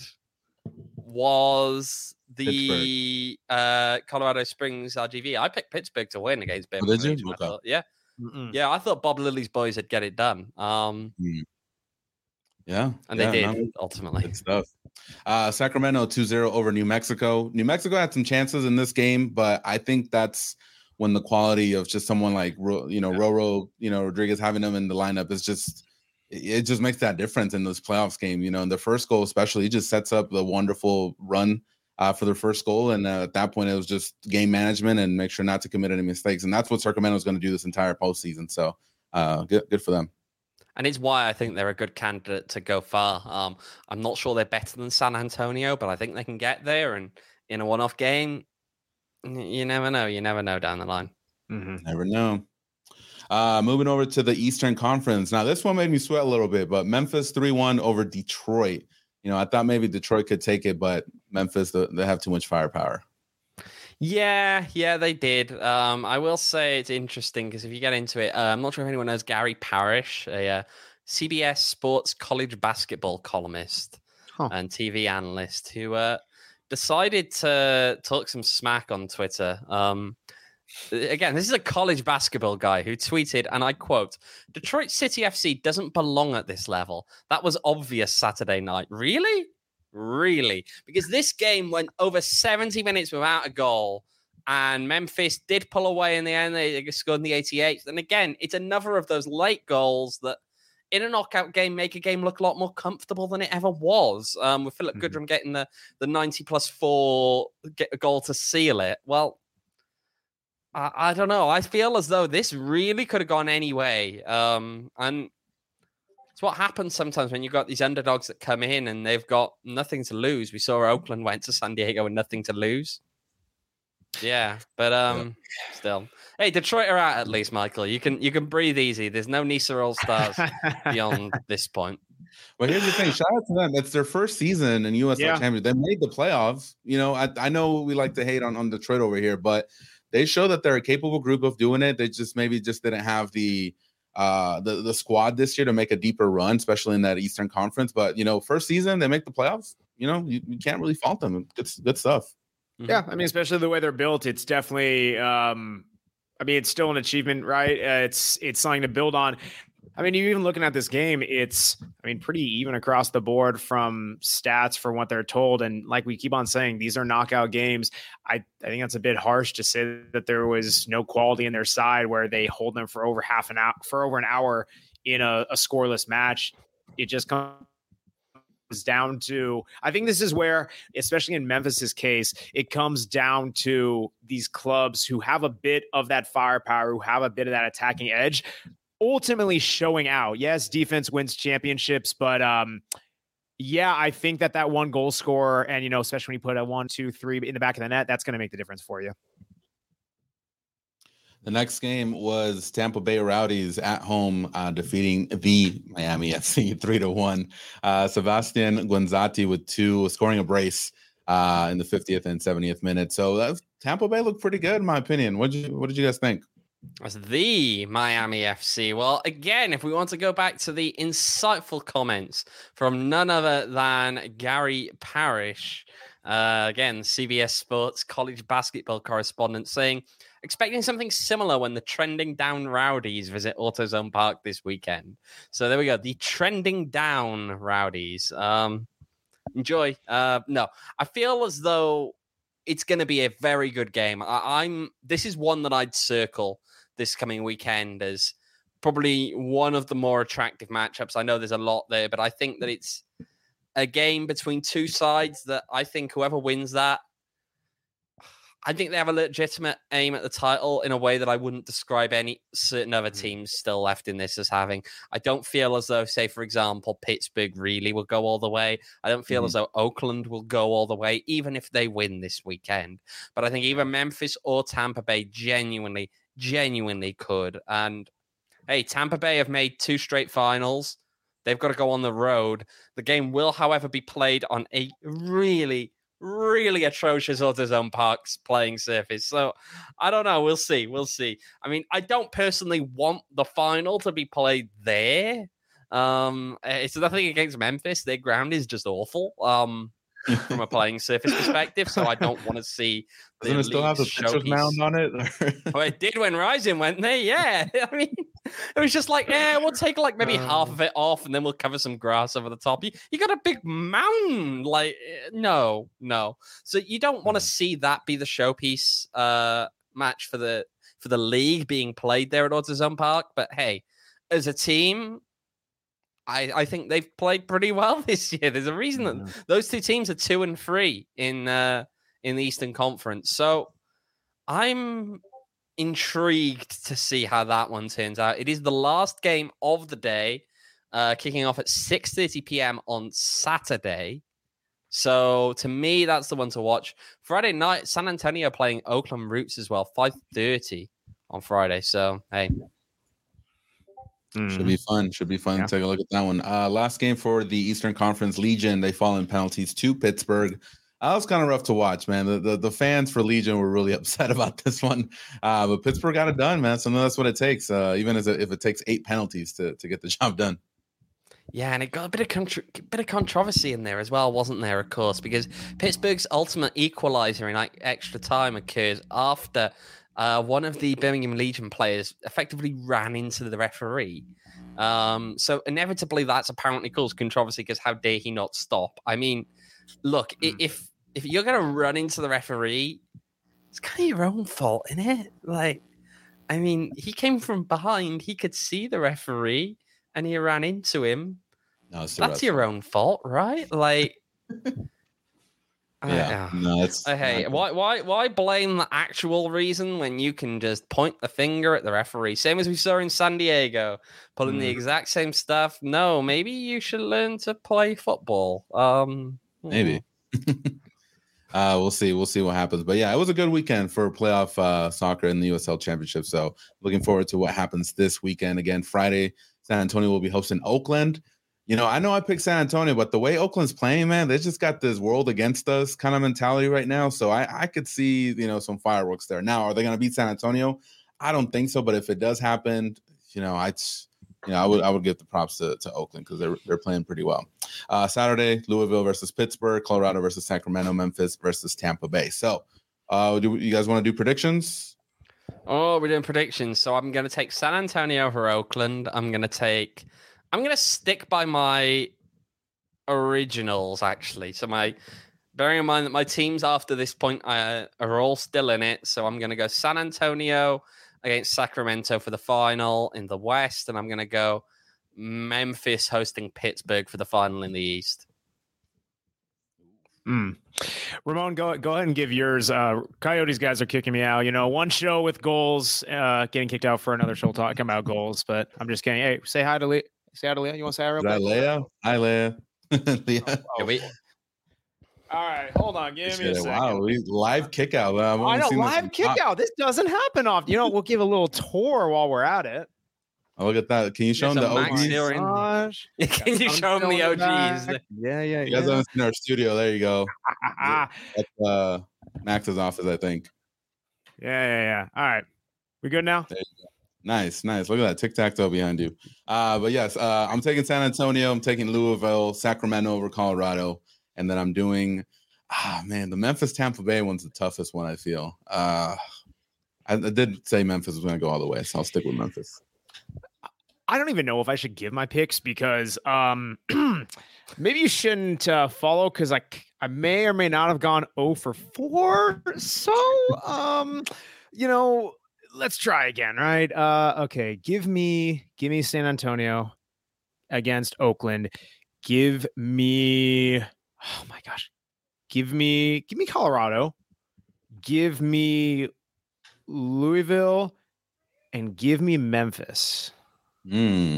was the uh, Colorado Springs R G V. I picked Pittsburgh to win against Bear. Oh, did you? I Okay. thought, yeah, Mm-mm. yeah. I thought Bob Lilly's boys would get it done. Um, mm. Yeah, and yeah, they did no, ultimately. Good stuff. Uh, Sacramento two zero over New Mexico. New Mexico had some chances in this game, but I think that's when the quality of just someone like you know yeah. Roro, you know Rodriguez having them in the lineup is just it just makes that difference in this playoffs game. You know, in the first goal especially, he just sets up the wonderful run uh, for their first goal, and uh, at that point it was just game management and make sure not to commit any mistakes, and that's what Sacramento is going to do this entire postseason. So, uh, good, good for them. And it's why I think they're a good candidate to go far. Um, I'm not sure they're better than San Antonio, but I think they can get there. And in a one-off game, you never know. You never know down the line. Mm-hmm. Never know. Uh, moving over to the Eastern Conference. Now, this one made me sweat a little bit, but Memphis three one over Detroit. You know, I thought maybe Detroit could take it, but Memphis, they have too much firepower. Yeah, yeah, they did. Um, I will say it's interesting because if you get into it, uh, I'm not sure if anyone knows Gary Parrish, a uh, C B S Sports college basketball columnist huh. and T V analyst who uh, decided to talk some smack on Twitter. Um, again, this is a college basketball guy who tweeted, and I quote, "Detroit City F C doesn't belong at this level. That was obvious Saturday night." Really? Really, because this game went over seventy minutes without a goal, and Memphis did pull away in the end. They scored in the eighty-eighth. And again, it's another of those late goals that in a knockout game make a game look a lot more comfortable than it ever was. Um, with Philip mm-hmm. Goodrum getting the, the ninety plus four get a goal to seal it. Well, I, I don't know. I feel as though this really could have gone any way. Um, and it's what happens sometimes when you've got these underdogs that come in and they've got nothing to lose. We saw Oakland went to San Diego with nothing to lose. Yeah, but um, yeah. still, hey, Detroit are out at least, Michael. You can you can breathe easy. There's no Nisa All Stars beyond this point. Well, here's the thing. Shout out to them. It's their first season in U S L yeah. Championship. They made the playoffs. You know, I, I know we like to hate on, on Detroit over here, but they show that they're a capable group of doing it. They just maybe just didn't have the uh the, the squad this year to make a deeper run, especially in that Eastern Conference. But you know, first season they make the playoffs. You know, you, you can't really fault them. It's good stuff. Yeah, I mean, especially the way they're built, it's definitely. Um, I mean, it's still an achievement, right? Uh, it's it's something to build on. I mean, you even looking at this game, it's, I mean, pretty even across the board from stats for what they're told. And like we keep on saying, these are knockout games. I, I think that's a bit harsh to say that there was no quality in their side where they hold them for over half an hour, for over an hour in a, a scoreless match. It just comes down to, I think this is where, especially in Memphis's case, it comes down to these clubs who have a bit of that firepower, who have a bit of that attacking edge, ultimately showing out. Yes, defense wins championships, but um, yeah, I think that that one goal scorer, and you know, especially when you put a one, two, three in the back of the net, that's going to make the difference for you. The next game was Tampa Bay Rowdies at home, uh, defeating the Miami F C three to one. Uh, Sebastian Guenzati with two, scoring a brace uh, in the fiftieth and seventieth minute. So that was, Tampa Bay looked pretty good, in my opinion. What did you What did you guys think? That's the Miami F C. Well, again, if we want to go back to the insightful comments from none other than Gary Parrish, Uh, again, C B S Sports college basketball correspondent saying, expecting something similar when the trending down Rowdies visit AutoZone Park this weekend. So there we go. The trending down Rowdies. Um, enjoy. Uh, no, I feel as though it's going to be a very good game. I, I'm. This is one that I'd circle this coming weekend as probably one of the more attractive matchups. I know there's a lot there, but I think that it's a game between two sides that I think whoever wins that, I think they have a legitimate aim at the title in a way that I wouldn't describe any certain other teams still left in this as having. I don't feel as though, say, for example, Pittsburgh really will go all the way. I don't feel mm-hmm. as though Oakland will go all the way, even if they win this weekend. But I think either Memphis or Tampa Bay genuinely, genuinely could. And hey, Tampa Bay have made two straight finals. They've got to go on the road. The game will, however, be played on a really, really atrocious AutoZone Park's playing surface. So I don't know. We'll see. We'll see. I mean, I don't personally want the final to be played there. Um, it's nothing against Memphis. Their ground is just awful. Um, from a playing surface perspective, so I don't want to see. Doesn't it still have the pitcher's mound on it? Well, it did when Rising went there. Yeah, I mean, it was just like, yeah, we'll take like maybe uh, half of it off, and then we'll cover some grass over the top. You, you got a big mountain, like no, no. So you don't want to see that be the showpiece uh, match for the for the league being played there at AutoZone Park. But hey, as a team, I, I think they've played pretty well this year. There's a reason that yeah. those two teams are two and three in uh, in the Eastern Conference. So I'm intrigued to see how that one turns out. It is the last game of the day, uh, kicking off at six thirty p.m. on Saturday. So to me, that's the one to watch. Friday night, San Antonio playing Oakland Roots as well, five thirty on Friday. So, hey. Should be fun. Should be fun. Yeah. Take a look at that one. Uh, last game for the Eastern Conference, Legion. They fall in penalties to Pittsburgh. Uh, that was kind of rough to watch, man. The, the the fans for Legion were really upset about this one. Uh, but Pittsburgh got it done, man. So that's what it takes, uh, even as a, if it takes eight penalties to, to get the job done. Yeah, and it got a bit of contro- bit of controversy in there as well, wasn't there, of course, because Pittsburgh's ultimate equalizer in like extra time occurs after Uh, one of the Birmingham Legion players effectively ran into the referee. Um, so inevitably, that's apparently caused controversy because how dare he not stop? I mean, look, mm. if if you're going to run into the referee, it's kind of your own fault, isn't it? Like, I mean, he came from behind. He could see the referee and he ran into him. No, that's your own fault, right? Like... Yeah, uh, no, it's hey, why, why, why blame the actual reason when you can just point the finger at the referee? Same as we saw in San Diego, pulling mm. the exact same stuff. No, maybe you should learn to play football. Um, maybe. uh, we'll see. We'll see what happens. But yeah, it was a good weekend for playoff uh, soccer in the U S L Championship. So looking forward to what happens this weekend. Again, Friday, San Antonio will be hosting Oakland. You know, I know I picked San Antonio, but the way Oakland's playing, man, they just got this world against us kind of mentality right now. So I, I could see, you know, some fireworks there. Now, are they going to beat San Antonio? I don't think so. But if it does happen, you know, I, you know, I would I would give the props to, to Oakland because they're they're playing pretty well. Uh, Saturday, Louisville versus Pittsburgh, Colorado versus Sacramento, Memphis versus Tampa Bay. So, uh, do you guys want to do predictions? Oh, we're doing predictions. So I'm going to take San Antonio over Oakland. I'm going to take. I'm going to stick by my originals, actually. So my, bearing in mind that my teams after this point uh, are all still in it. So I'm going to go San Antonio against Sacramento for the final in the West. And I'm going to go Memphis hosting Pittsburgh for the final in the East. Mm. Ramon, go go ahead and give yours. Uh, Coyotes guys are kicking me out. You know, one show with goals, uh, getting kicked out for another show talking about goals. But I'm just kidding. Hey, say hi to Lee. Say hi to Leah. You want to say hi real quick? Is that Leah? Hi, Leah. Leah. Oh, oh. Wait. All right, hold on. Give me a second. Wow, we live kick out. I know, live kick out. This doesn't happen often. You know, we'll give a little tour while we're at it. Oh, look at that. Can you show them the O Gs? Can you show them the O Gs? Yeah, yeah, you guys yeah. haven't seen our studio. There you go. That's uh, Max's office, I think. Yeah, yeah, yeah. All right. We good now? There you go. Nice, nice. Look at that tic-tac-toe behind you. Uh, but yes, uh, I'm taking San Antonio. I'm taking Louisville, Sacramento over Colorado. And then I'm doing, ah, man, the Memphis Tampa Bay one's the toughest one. I feel. Uh, I, I did say Memphis was going to go all the way, so I'll stick with Memphis. I don't even know if I should give my picks because um, maybe you shouldn't uh, follow because like I may or may not have gone zero for four. So um, you know, let's try again, right? Uh, okay, give me give me San Antonio against Oakland. Give me oh my gosh, give me give me Colorado. Give me Louisville, and give me Memphis. Hmm.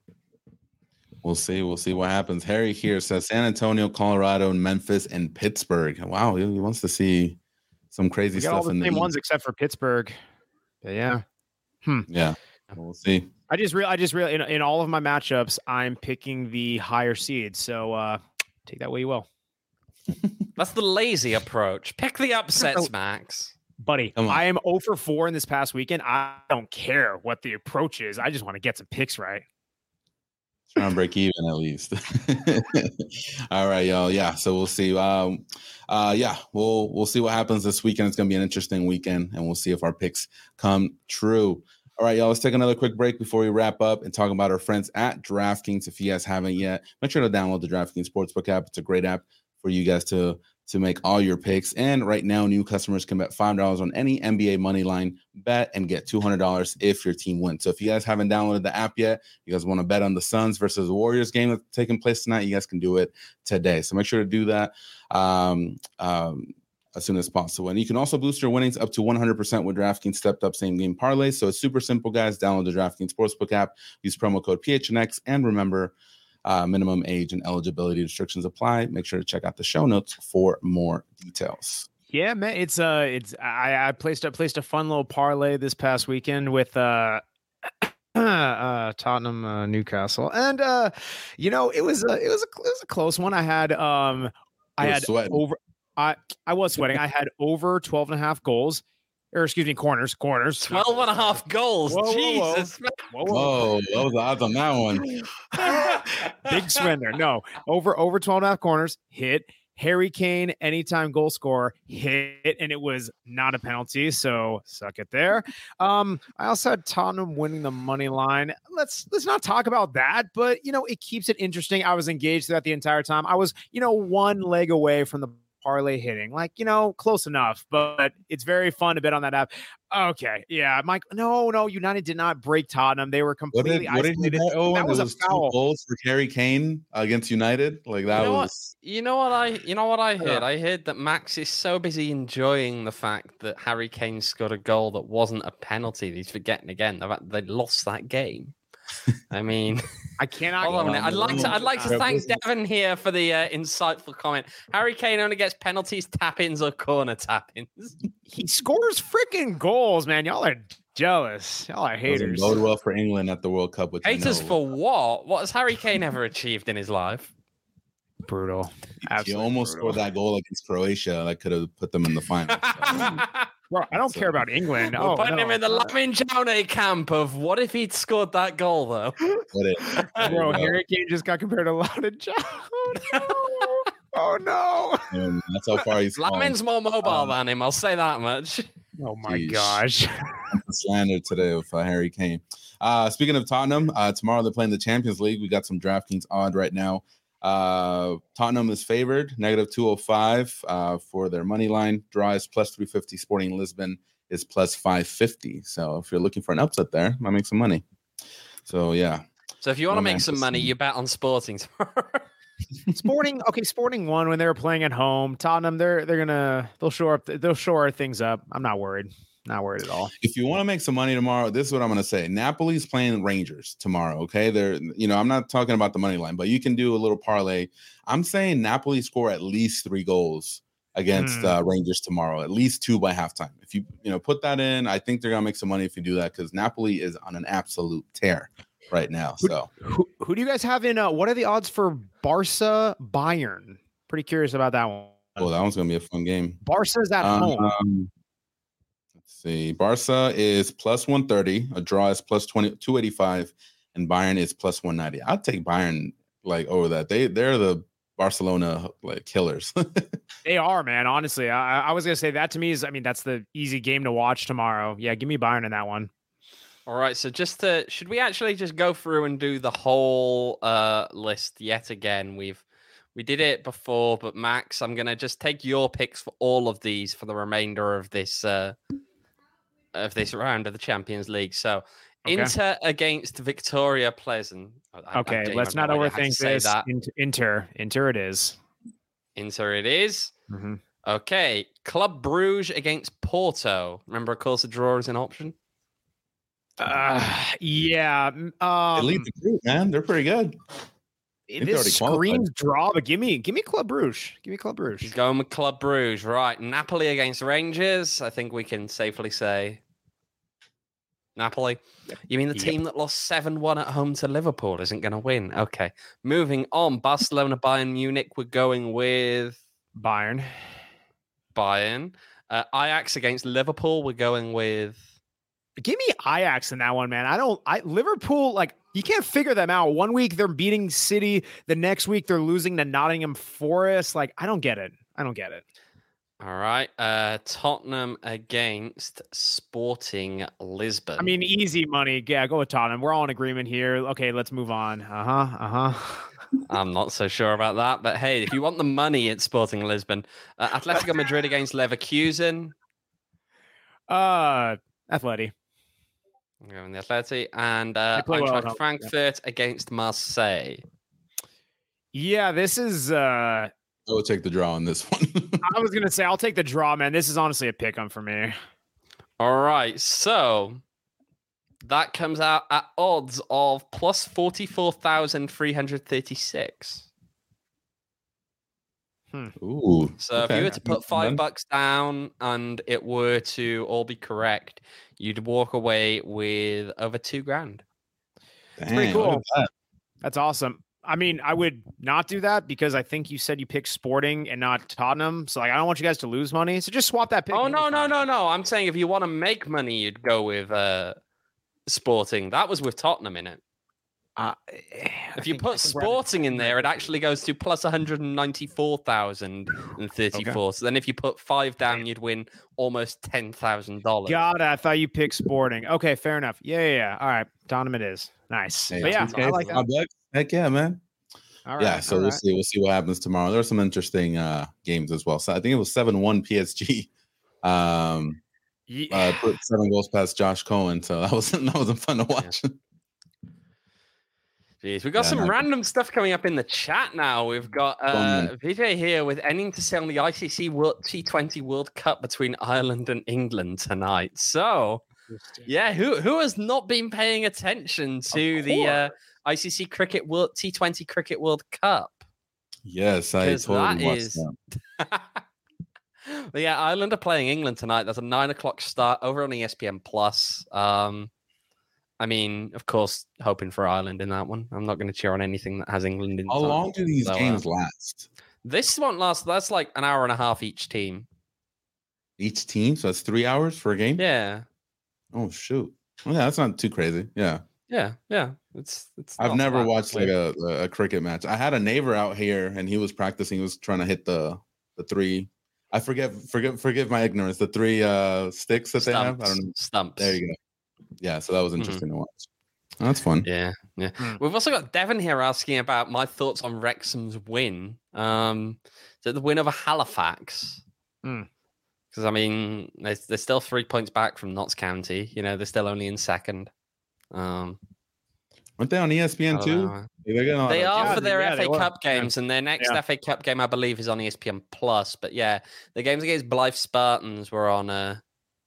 We'll see. We'll see what happens. Harry here says San Antonio, Colorado, and Memphis, and Pittsburgh. Wow, he, he wants to see some crazy We got stuff all the in same the ones East. except for Pittsburgh. But yeah. Hmm. Yeah, we'll see. I just real I just real in, in all of my matchups, I'm picking the higher seed. So uh take that way you will. That's the lazy approach. Pick the upsets, Max. Buddy, Come on. I am zero for four in this past weekend. I don't care what the approach is. I just want to get some picks right. Trying to break even at least. All right, y'all. Yeah, so we'll see. Um, uh, yeah, we'll we'll see what happens this weekend. It's gonna be an interesting weekend, and we'll see if our picks come true. All right, y'all. Let's take another quick break before we wrap up and talk about our friends at DraftKings. If you guys haven't yet, make sure to download the DraftKings Sportsbook app. It's a great app for you guys to to make all your picks. And right now, new customers can bet five dollars on any N B A money line bet and get two hundred dollars if your team wins. So if you guys haven't downloaded the app yet, you guys want to bet on the Suns versus the Warriors game that's taking place tonight, you guys can do it today. So make sure to do that um, um, as soon as possible. And you can also boost your winnings up to one hundred percent with DraftKings stepped up same game parlays. So it's super simple, guys. Download the DraftKings Sportsbook app, use promo code P H N X, and remember, Uh, minimum age and eligibility restrictions apply. Make sure to check out the show notes for more details. Yeah, man, it's uh, it's I, I placed I placed a fun little parlay this past weekend with uh, uh Tottenham, uh, Newcastle, and uh, you know it was a it was a it was a close one. I had um, I You were had sweating. over I I was sweating. I had over twelve and a half goals, or excuse me, corners, corners, twelve and a half goals. Whoa, whoa, whoa. Jesus. Whoa, whoa. Whoa, what was the odds on that one? Big swindler. No, over over twelve and a half corners, hit. Harry Kane, anytime goal scorer, hit, and it was not a penalty. So suck it there. Um, I also had Tottenham winning the money line. Let's let's not talk about that, but you know, it keeps it interesting. I was engaged throughout the entire time. I was, you know, one leg away from the parlay hitting, like, you know, close enough, but it's very fun to bet on that app. Okay, yeah, Mike. No, no, United did not break Tottenham. They were What did, completely what did you isolated. bet, Owen? That was It a was foul. two goals for Harry Kane against United. Like that You know what? was. You know what I you know what I heard? Yeah. I heard that Max is so busy enjoying the fact that Harry Kane scored a goal that wasn't a penalty. He's forgetting again the fact they lost that game. I mean, I cannot. hold on a minute. I'd like to I'd like to Uh, thank listen. Devon here for the uh, insightful comment. Harry Kane only gets penalties, tap-ins, or corner tap-ins. He scores freaking goals, man. Y'all are jealous. Y'all are Doesn't haters. bode well for England at the World Cup. Which I Haters know. for what? What has Harry Kane ever achieved in his life? Brutal. He Absolutely almost brutal. scored that goal against Croatia that could have put them in the final. So, Bro, I don't So- care about England. We're Oh, putting no. him in the Lamin Jaune camp of what if he'd scored that goal though? put it. Bro, Yeah. Harry Kane just got compared to Loudon John. Oh, no. And that's how far he's fallen. Lamin's more mobile Um, than him, I'll say that much. Oh, my Jeez. gosh. Slander today with uh, Harry Kane. Uh, speaking of Tottenham, uh, tomorrow they're playing the Champions League. We got some DraftKings odd right now. Uh, Tottenham is favored, negative two oh five uh, for their money line. Draw is plus three fifty. Sporting Lisbon is plus five fifty. So if you're looking for an upset there, might make some money. So yeah, So if you want to No, make man, some this- money, you bet on Sporting tomorrow. Sporting, okay, Sporting won when they were playing at home. Tottenham, they're they're gonna they'll shore up they'll shore things up. I'm not worried. Not worried at all. if you want to make some money tomorrow, this is what I'm going to say. Napoli's playing Rangers tomorrow. Okay, they're you know I'm not talking about the money line, but you can do a little parlay. I'm saying Napoli score at least three goals against Hmm. uh, Rangers tomorrow, at least two by halftime. If you you know put that in, I think they're going to make some money if you do that because Napoli is on an absolute tear right now. So Who, who do you guys have in? Uh, what are the odds for Barca Bayern? Pretty curious about that one. oh, that one's going to be a fun game. Barca's at home. Um, let's see. Barca is plus one thirty. A draw is plus twenty two eighty five, and Bayern is plus one ninety. I'll take Bayern like over that. They they're the Barcelona like killers. They are, man. Honestly, I, I was gonna say that to me is, I mean, that's the easy game to watch tomorrow. Yeah, give me Bayern in that one. All right, so just to, should we actually just go through and do the whole uh, list yet again? We've we did it before, but Max, I'm gonna just take your picks for all of these for the remainder of this uh, of this round of the Champions League. So okay. Inter against Victoria Pleasant. I, okay, I let's not overthink this. That. Inter, Inter, it is. Inter, it is. Mm-hmm. Okay, Club Brugge against Porto. Remember, of course, a draw is an option. Uh, yeah. Um, they lead the group, man. They're pretty good. This screams draw, but give me, give me Club Brugge. Give me Club Brugge. He's going with Club Brugge, right? Napoli against Rangers. I think we can safely say Napoli. Yep. You mean the yep. team that lost seven one at home to Liverpool isn't going to win? Okay. Moving on, Barcelona, Bayern Munich. We're going with Bayern. Bayern. Uh, Ajax against Liverpool. We're going with. Give me Ajax in that one, man. I don't. I Liverpool, like, you can't figure them out. One week they're beating City, the next week they're losing to Nottingham Forest. Like, I don't get it. I don't get it. All right. Uh, Tottenham against Sporting Lisbon. I mean, easy money. Yeah, go with Tottenham. We're all in agreement here. Okay, let's move on. Uh huh. Uh huh. I'm not so sure about that, but hey, if you want the money, it's Sporting Lisbon. Uh, Atletico Madrid against Leverkusen. Uh, Atleti. I'm going the Atleti and uh, Eintracht well, Frankfurt yeah. against Marseille. Yeah, this is. Uh, I will take the draw on this one. I was gonna say I'll take the draw, man. This is honestly a pick 'em for me. All right, so that comes out at odds of plus forty-four thousand three hundred thirty-six. Hmm. Ooh. So okay. if you were to put five bucks down and it were to all be correct, you'd walk away with over two grand. That's pretty cool. That. That's awesome. I mean, I would not do that because I think you said you picked Sporting and not Tottenham. So like, I don't want you guys to lose money. So just swap that pick. Oh, no, no, no, no. I'm saying if you want to make money, you'd go with uh, Sporting. That was with Tottenham in it. Uh, if you think, put Sporting in there, it actually goes to plus one hundred ninety-four thousand thirty-four. Okay. So then if you put five down, you'd win almost ten thousand dollars. God, I thought you picked Sporting. Okay, fair enough. Yeah, yeah, yeah. All right. Tottenham it is. Nice. Hey, but yeah, okay. I like that. Heck yeah, man. All right, yeah, so all we'll right. see. We'll see what happens tomorrow. There are some interesting uh, games as well. So I think it was seven one P S G. Um, yeah. uh, put seven goals past Josh Cohen. So that wasn't that wasn't fun to watch. Yeah. Jeez, we've got yeah, some no. random stuff coming up in the chat now. We've got uh, Vijay here with anything to say on the I C C World T twenty World Cup between Ireland and England tonight. So, yeah, who who has not been paying attention to the uh, I C C Cricket World T twenty Cricket World Cup? Yes, I totally watched is... that. But yeah, Ireland are playing England tonight. That's a nine o'clock start over on E S P N Plus. Um, I mean, of course, hoping for Ireland in that one. I'm not going to cheer on anything that has England in. How time. long do these so, games uh, last? This won't last. That's like an hour and a half each team. Each team? So that's three hours for a game? Yeah. Oh, shoot. Well, yeah, that's not too crazy. Yeah. Yeah, yeah. It's it's. I've never watched like a, a cricket match. I had a neighbor out here, and he was practicing. He was trying to hit the the three. I forget, forget, forgive my ignorance. The three uh, sticks that Stumps. they have. I don't know. Stumps. There you go. Yeah, so that was interesting mm-hmm. to watch. Oh, that's fun. Yeah, yeah. Mm. We've also got Devin here asking about my thoughts on Wrexham's win. Um, so the win over Halifax. Because mm. I mean, they're, they're still three points back from Notts County. You know, they're still only in second. Um, Aren't they on E S P N too? They are yeah, for their yeah, F A Cup games, yeah. and their next yeah. F A Cup game, I believe, is on E S P N Plus. But yeah, the games against Blythe Spartans were on uh,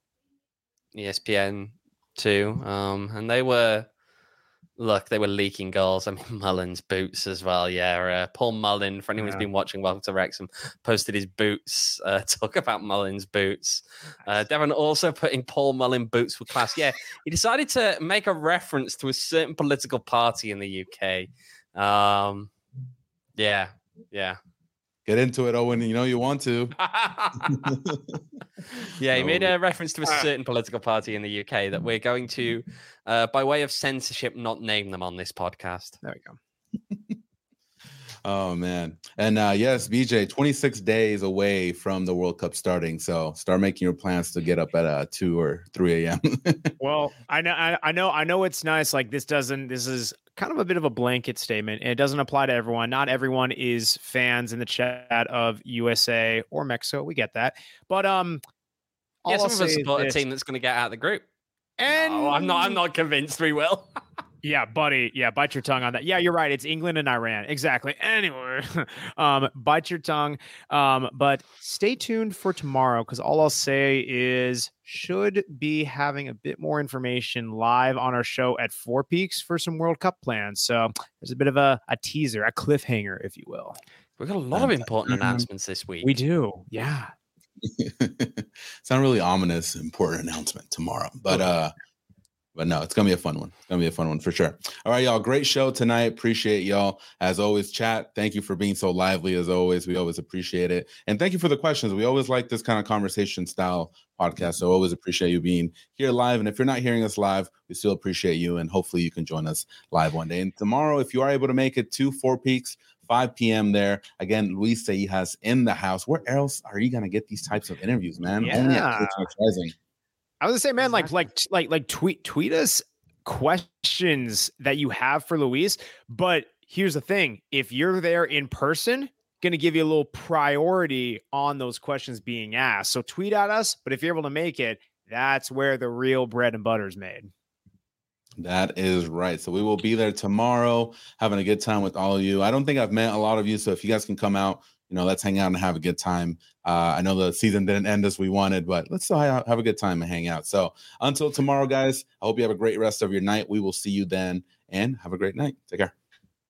E S P N too, um, and they were look, they were leaking goals. I mean, Mullen's boots as well. Yeah, uh, Paul Mullen, for anyone yeah. who's been watching Welcome to Wrexham, posted his boots. Uh, talk about Mullen's boots. Uh, Devon also putting Paul Mullen boots with class. Yeah, he decided to make a reference to a certain political party in the U K. Um, yeah, yeah. Get into it, Owen. You know you want to. Yeah, he made a reference to a certain political party in the U K that we're going to, uh, by way of censorship, not name them on this podcast. There we go. Oh man. And uh yes, B J, twenty-six days away from the World Cup starting. So start making your plans to get up at uh two or three a.m. Well, I know I, I know I know it's nice. Like this doesn't this is kind of a bit of a blanket statement. And it doesn't apply to everyone. Not everyone is fans in the chat of U S A or Mexico. We get that. But um yeah, all some I'll of us say support a is team that's going to get out of the group. And no, I'm not I'm not convinced we will. Yeah, buddy. Yeah, bite your tongue on that. Yeah, you're right. It's England and Iran. Exactly. Anyway, um, bite your tongue. Um, but stay tuned for tomorrow because all I'll say is should be having a bit more information live on our show at Four Peaks for some World Cup plans. So there's a bit of a, a teaser, a cliffhanger, if you will. We've got a lot of important announcements this week. We do. Yeah. It's not really ominous, important announcement tomorrow, but uh. But no, it's going to be a fun one. It's going to be a fun one for sure. All right, y'all. Great show tonight. Appreciate y'all. As always, chat, thank you for being so lively as always. We always appreciate it. And thank you for the questions. We always like this kind of conversation style podcast. So always appreciate you being here live. And if you're not hearing us live, we still appreciate you. And hopefully you can join us live one day. And tomorrow, if you are able to make it to Four Peaks, five p.m. there. Again, Luis Seijas in the house. Where else are you going to get these types of interviews, man? Yeah. Only at Twitch Rising. I was gonna say, man, Exactly. like, like, like, like, tweet, tweet us questions that you have for Luis. But here's the thing: if you're there in person, gonna give you a little priority on those questions being asked. So tweet at us. But if you're able to make it, that's where the real bread and butter is made. That is right. So we will be there tomorrow, having a good time with all of you. I don't think I've met a lot of you, so if you guys can come out, you know, let's hang out and have a good time. Uh, I know the season didn't end as we wanted, but let's still have a good time and hang out. So until tomorrow, guys, I hope you have a great rest of your night. We will see you then, and have a great night. Take care.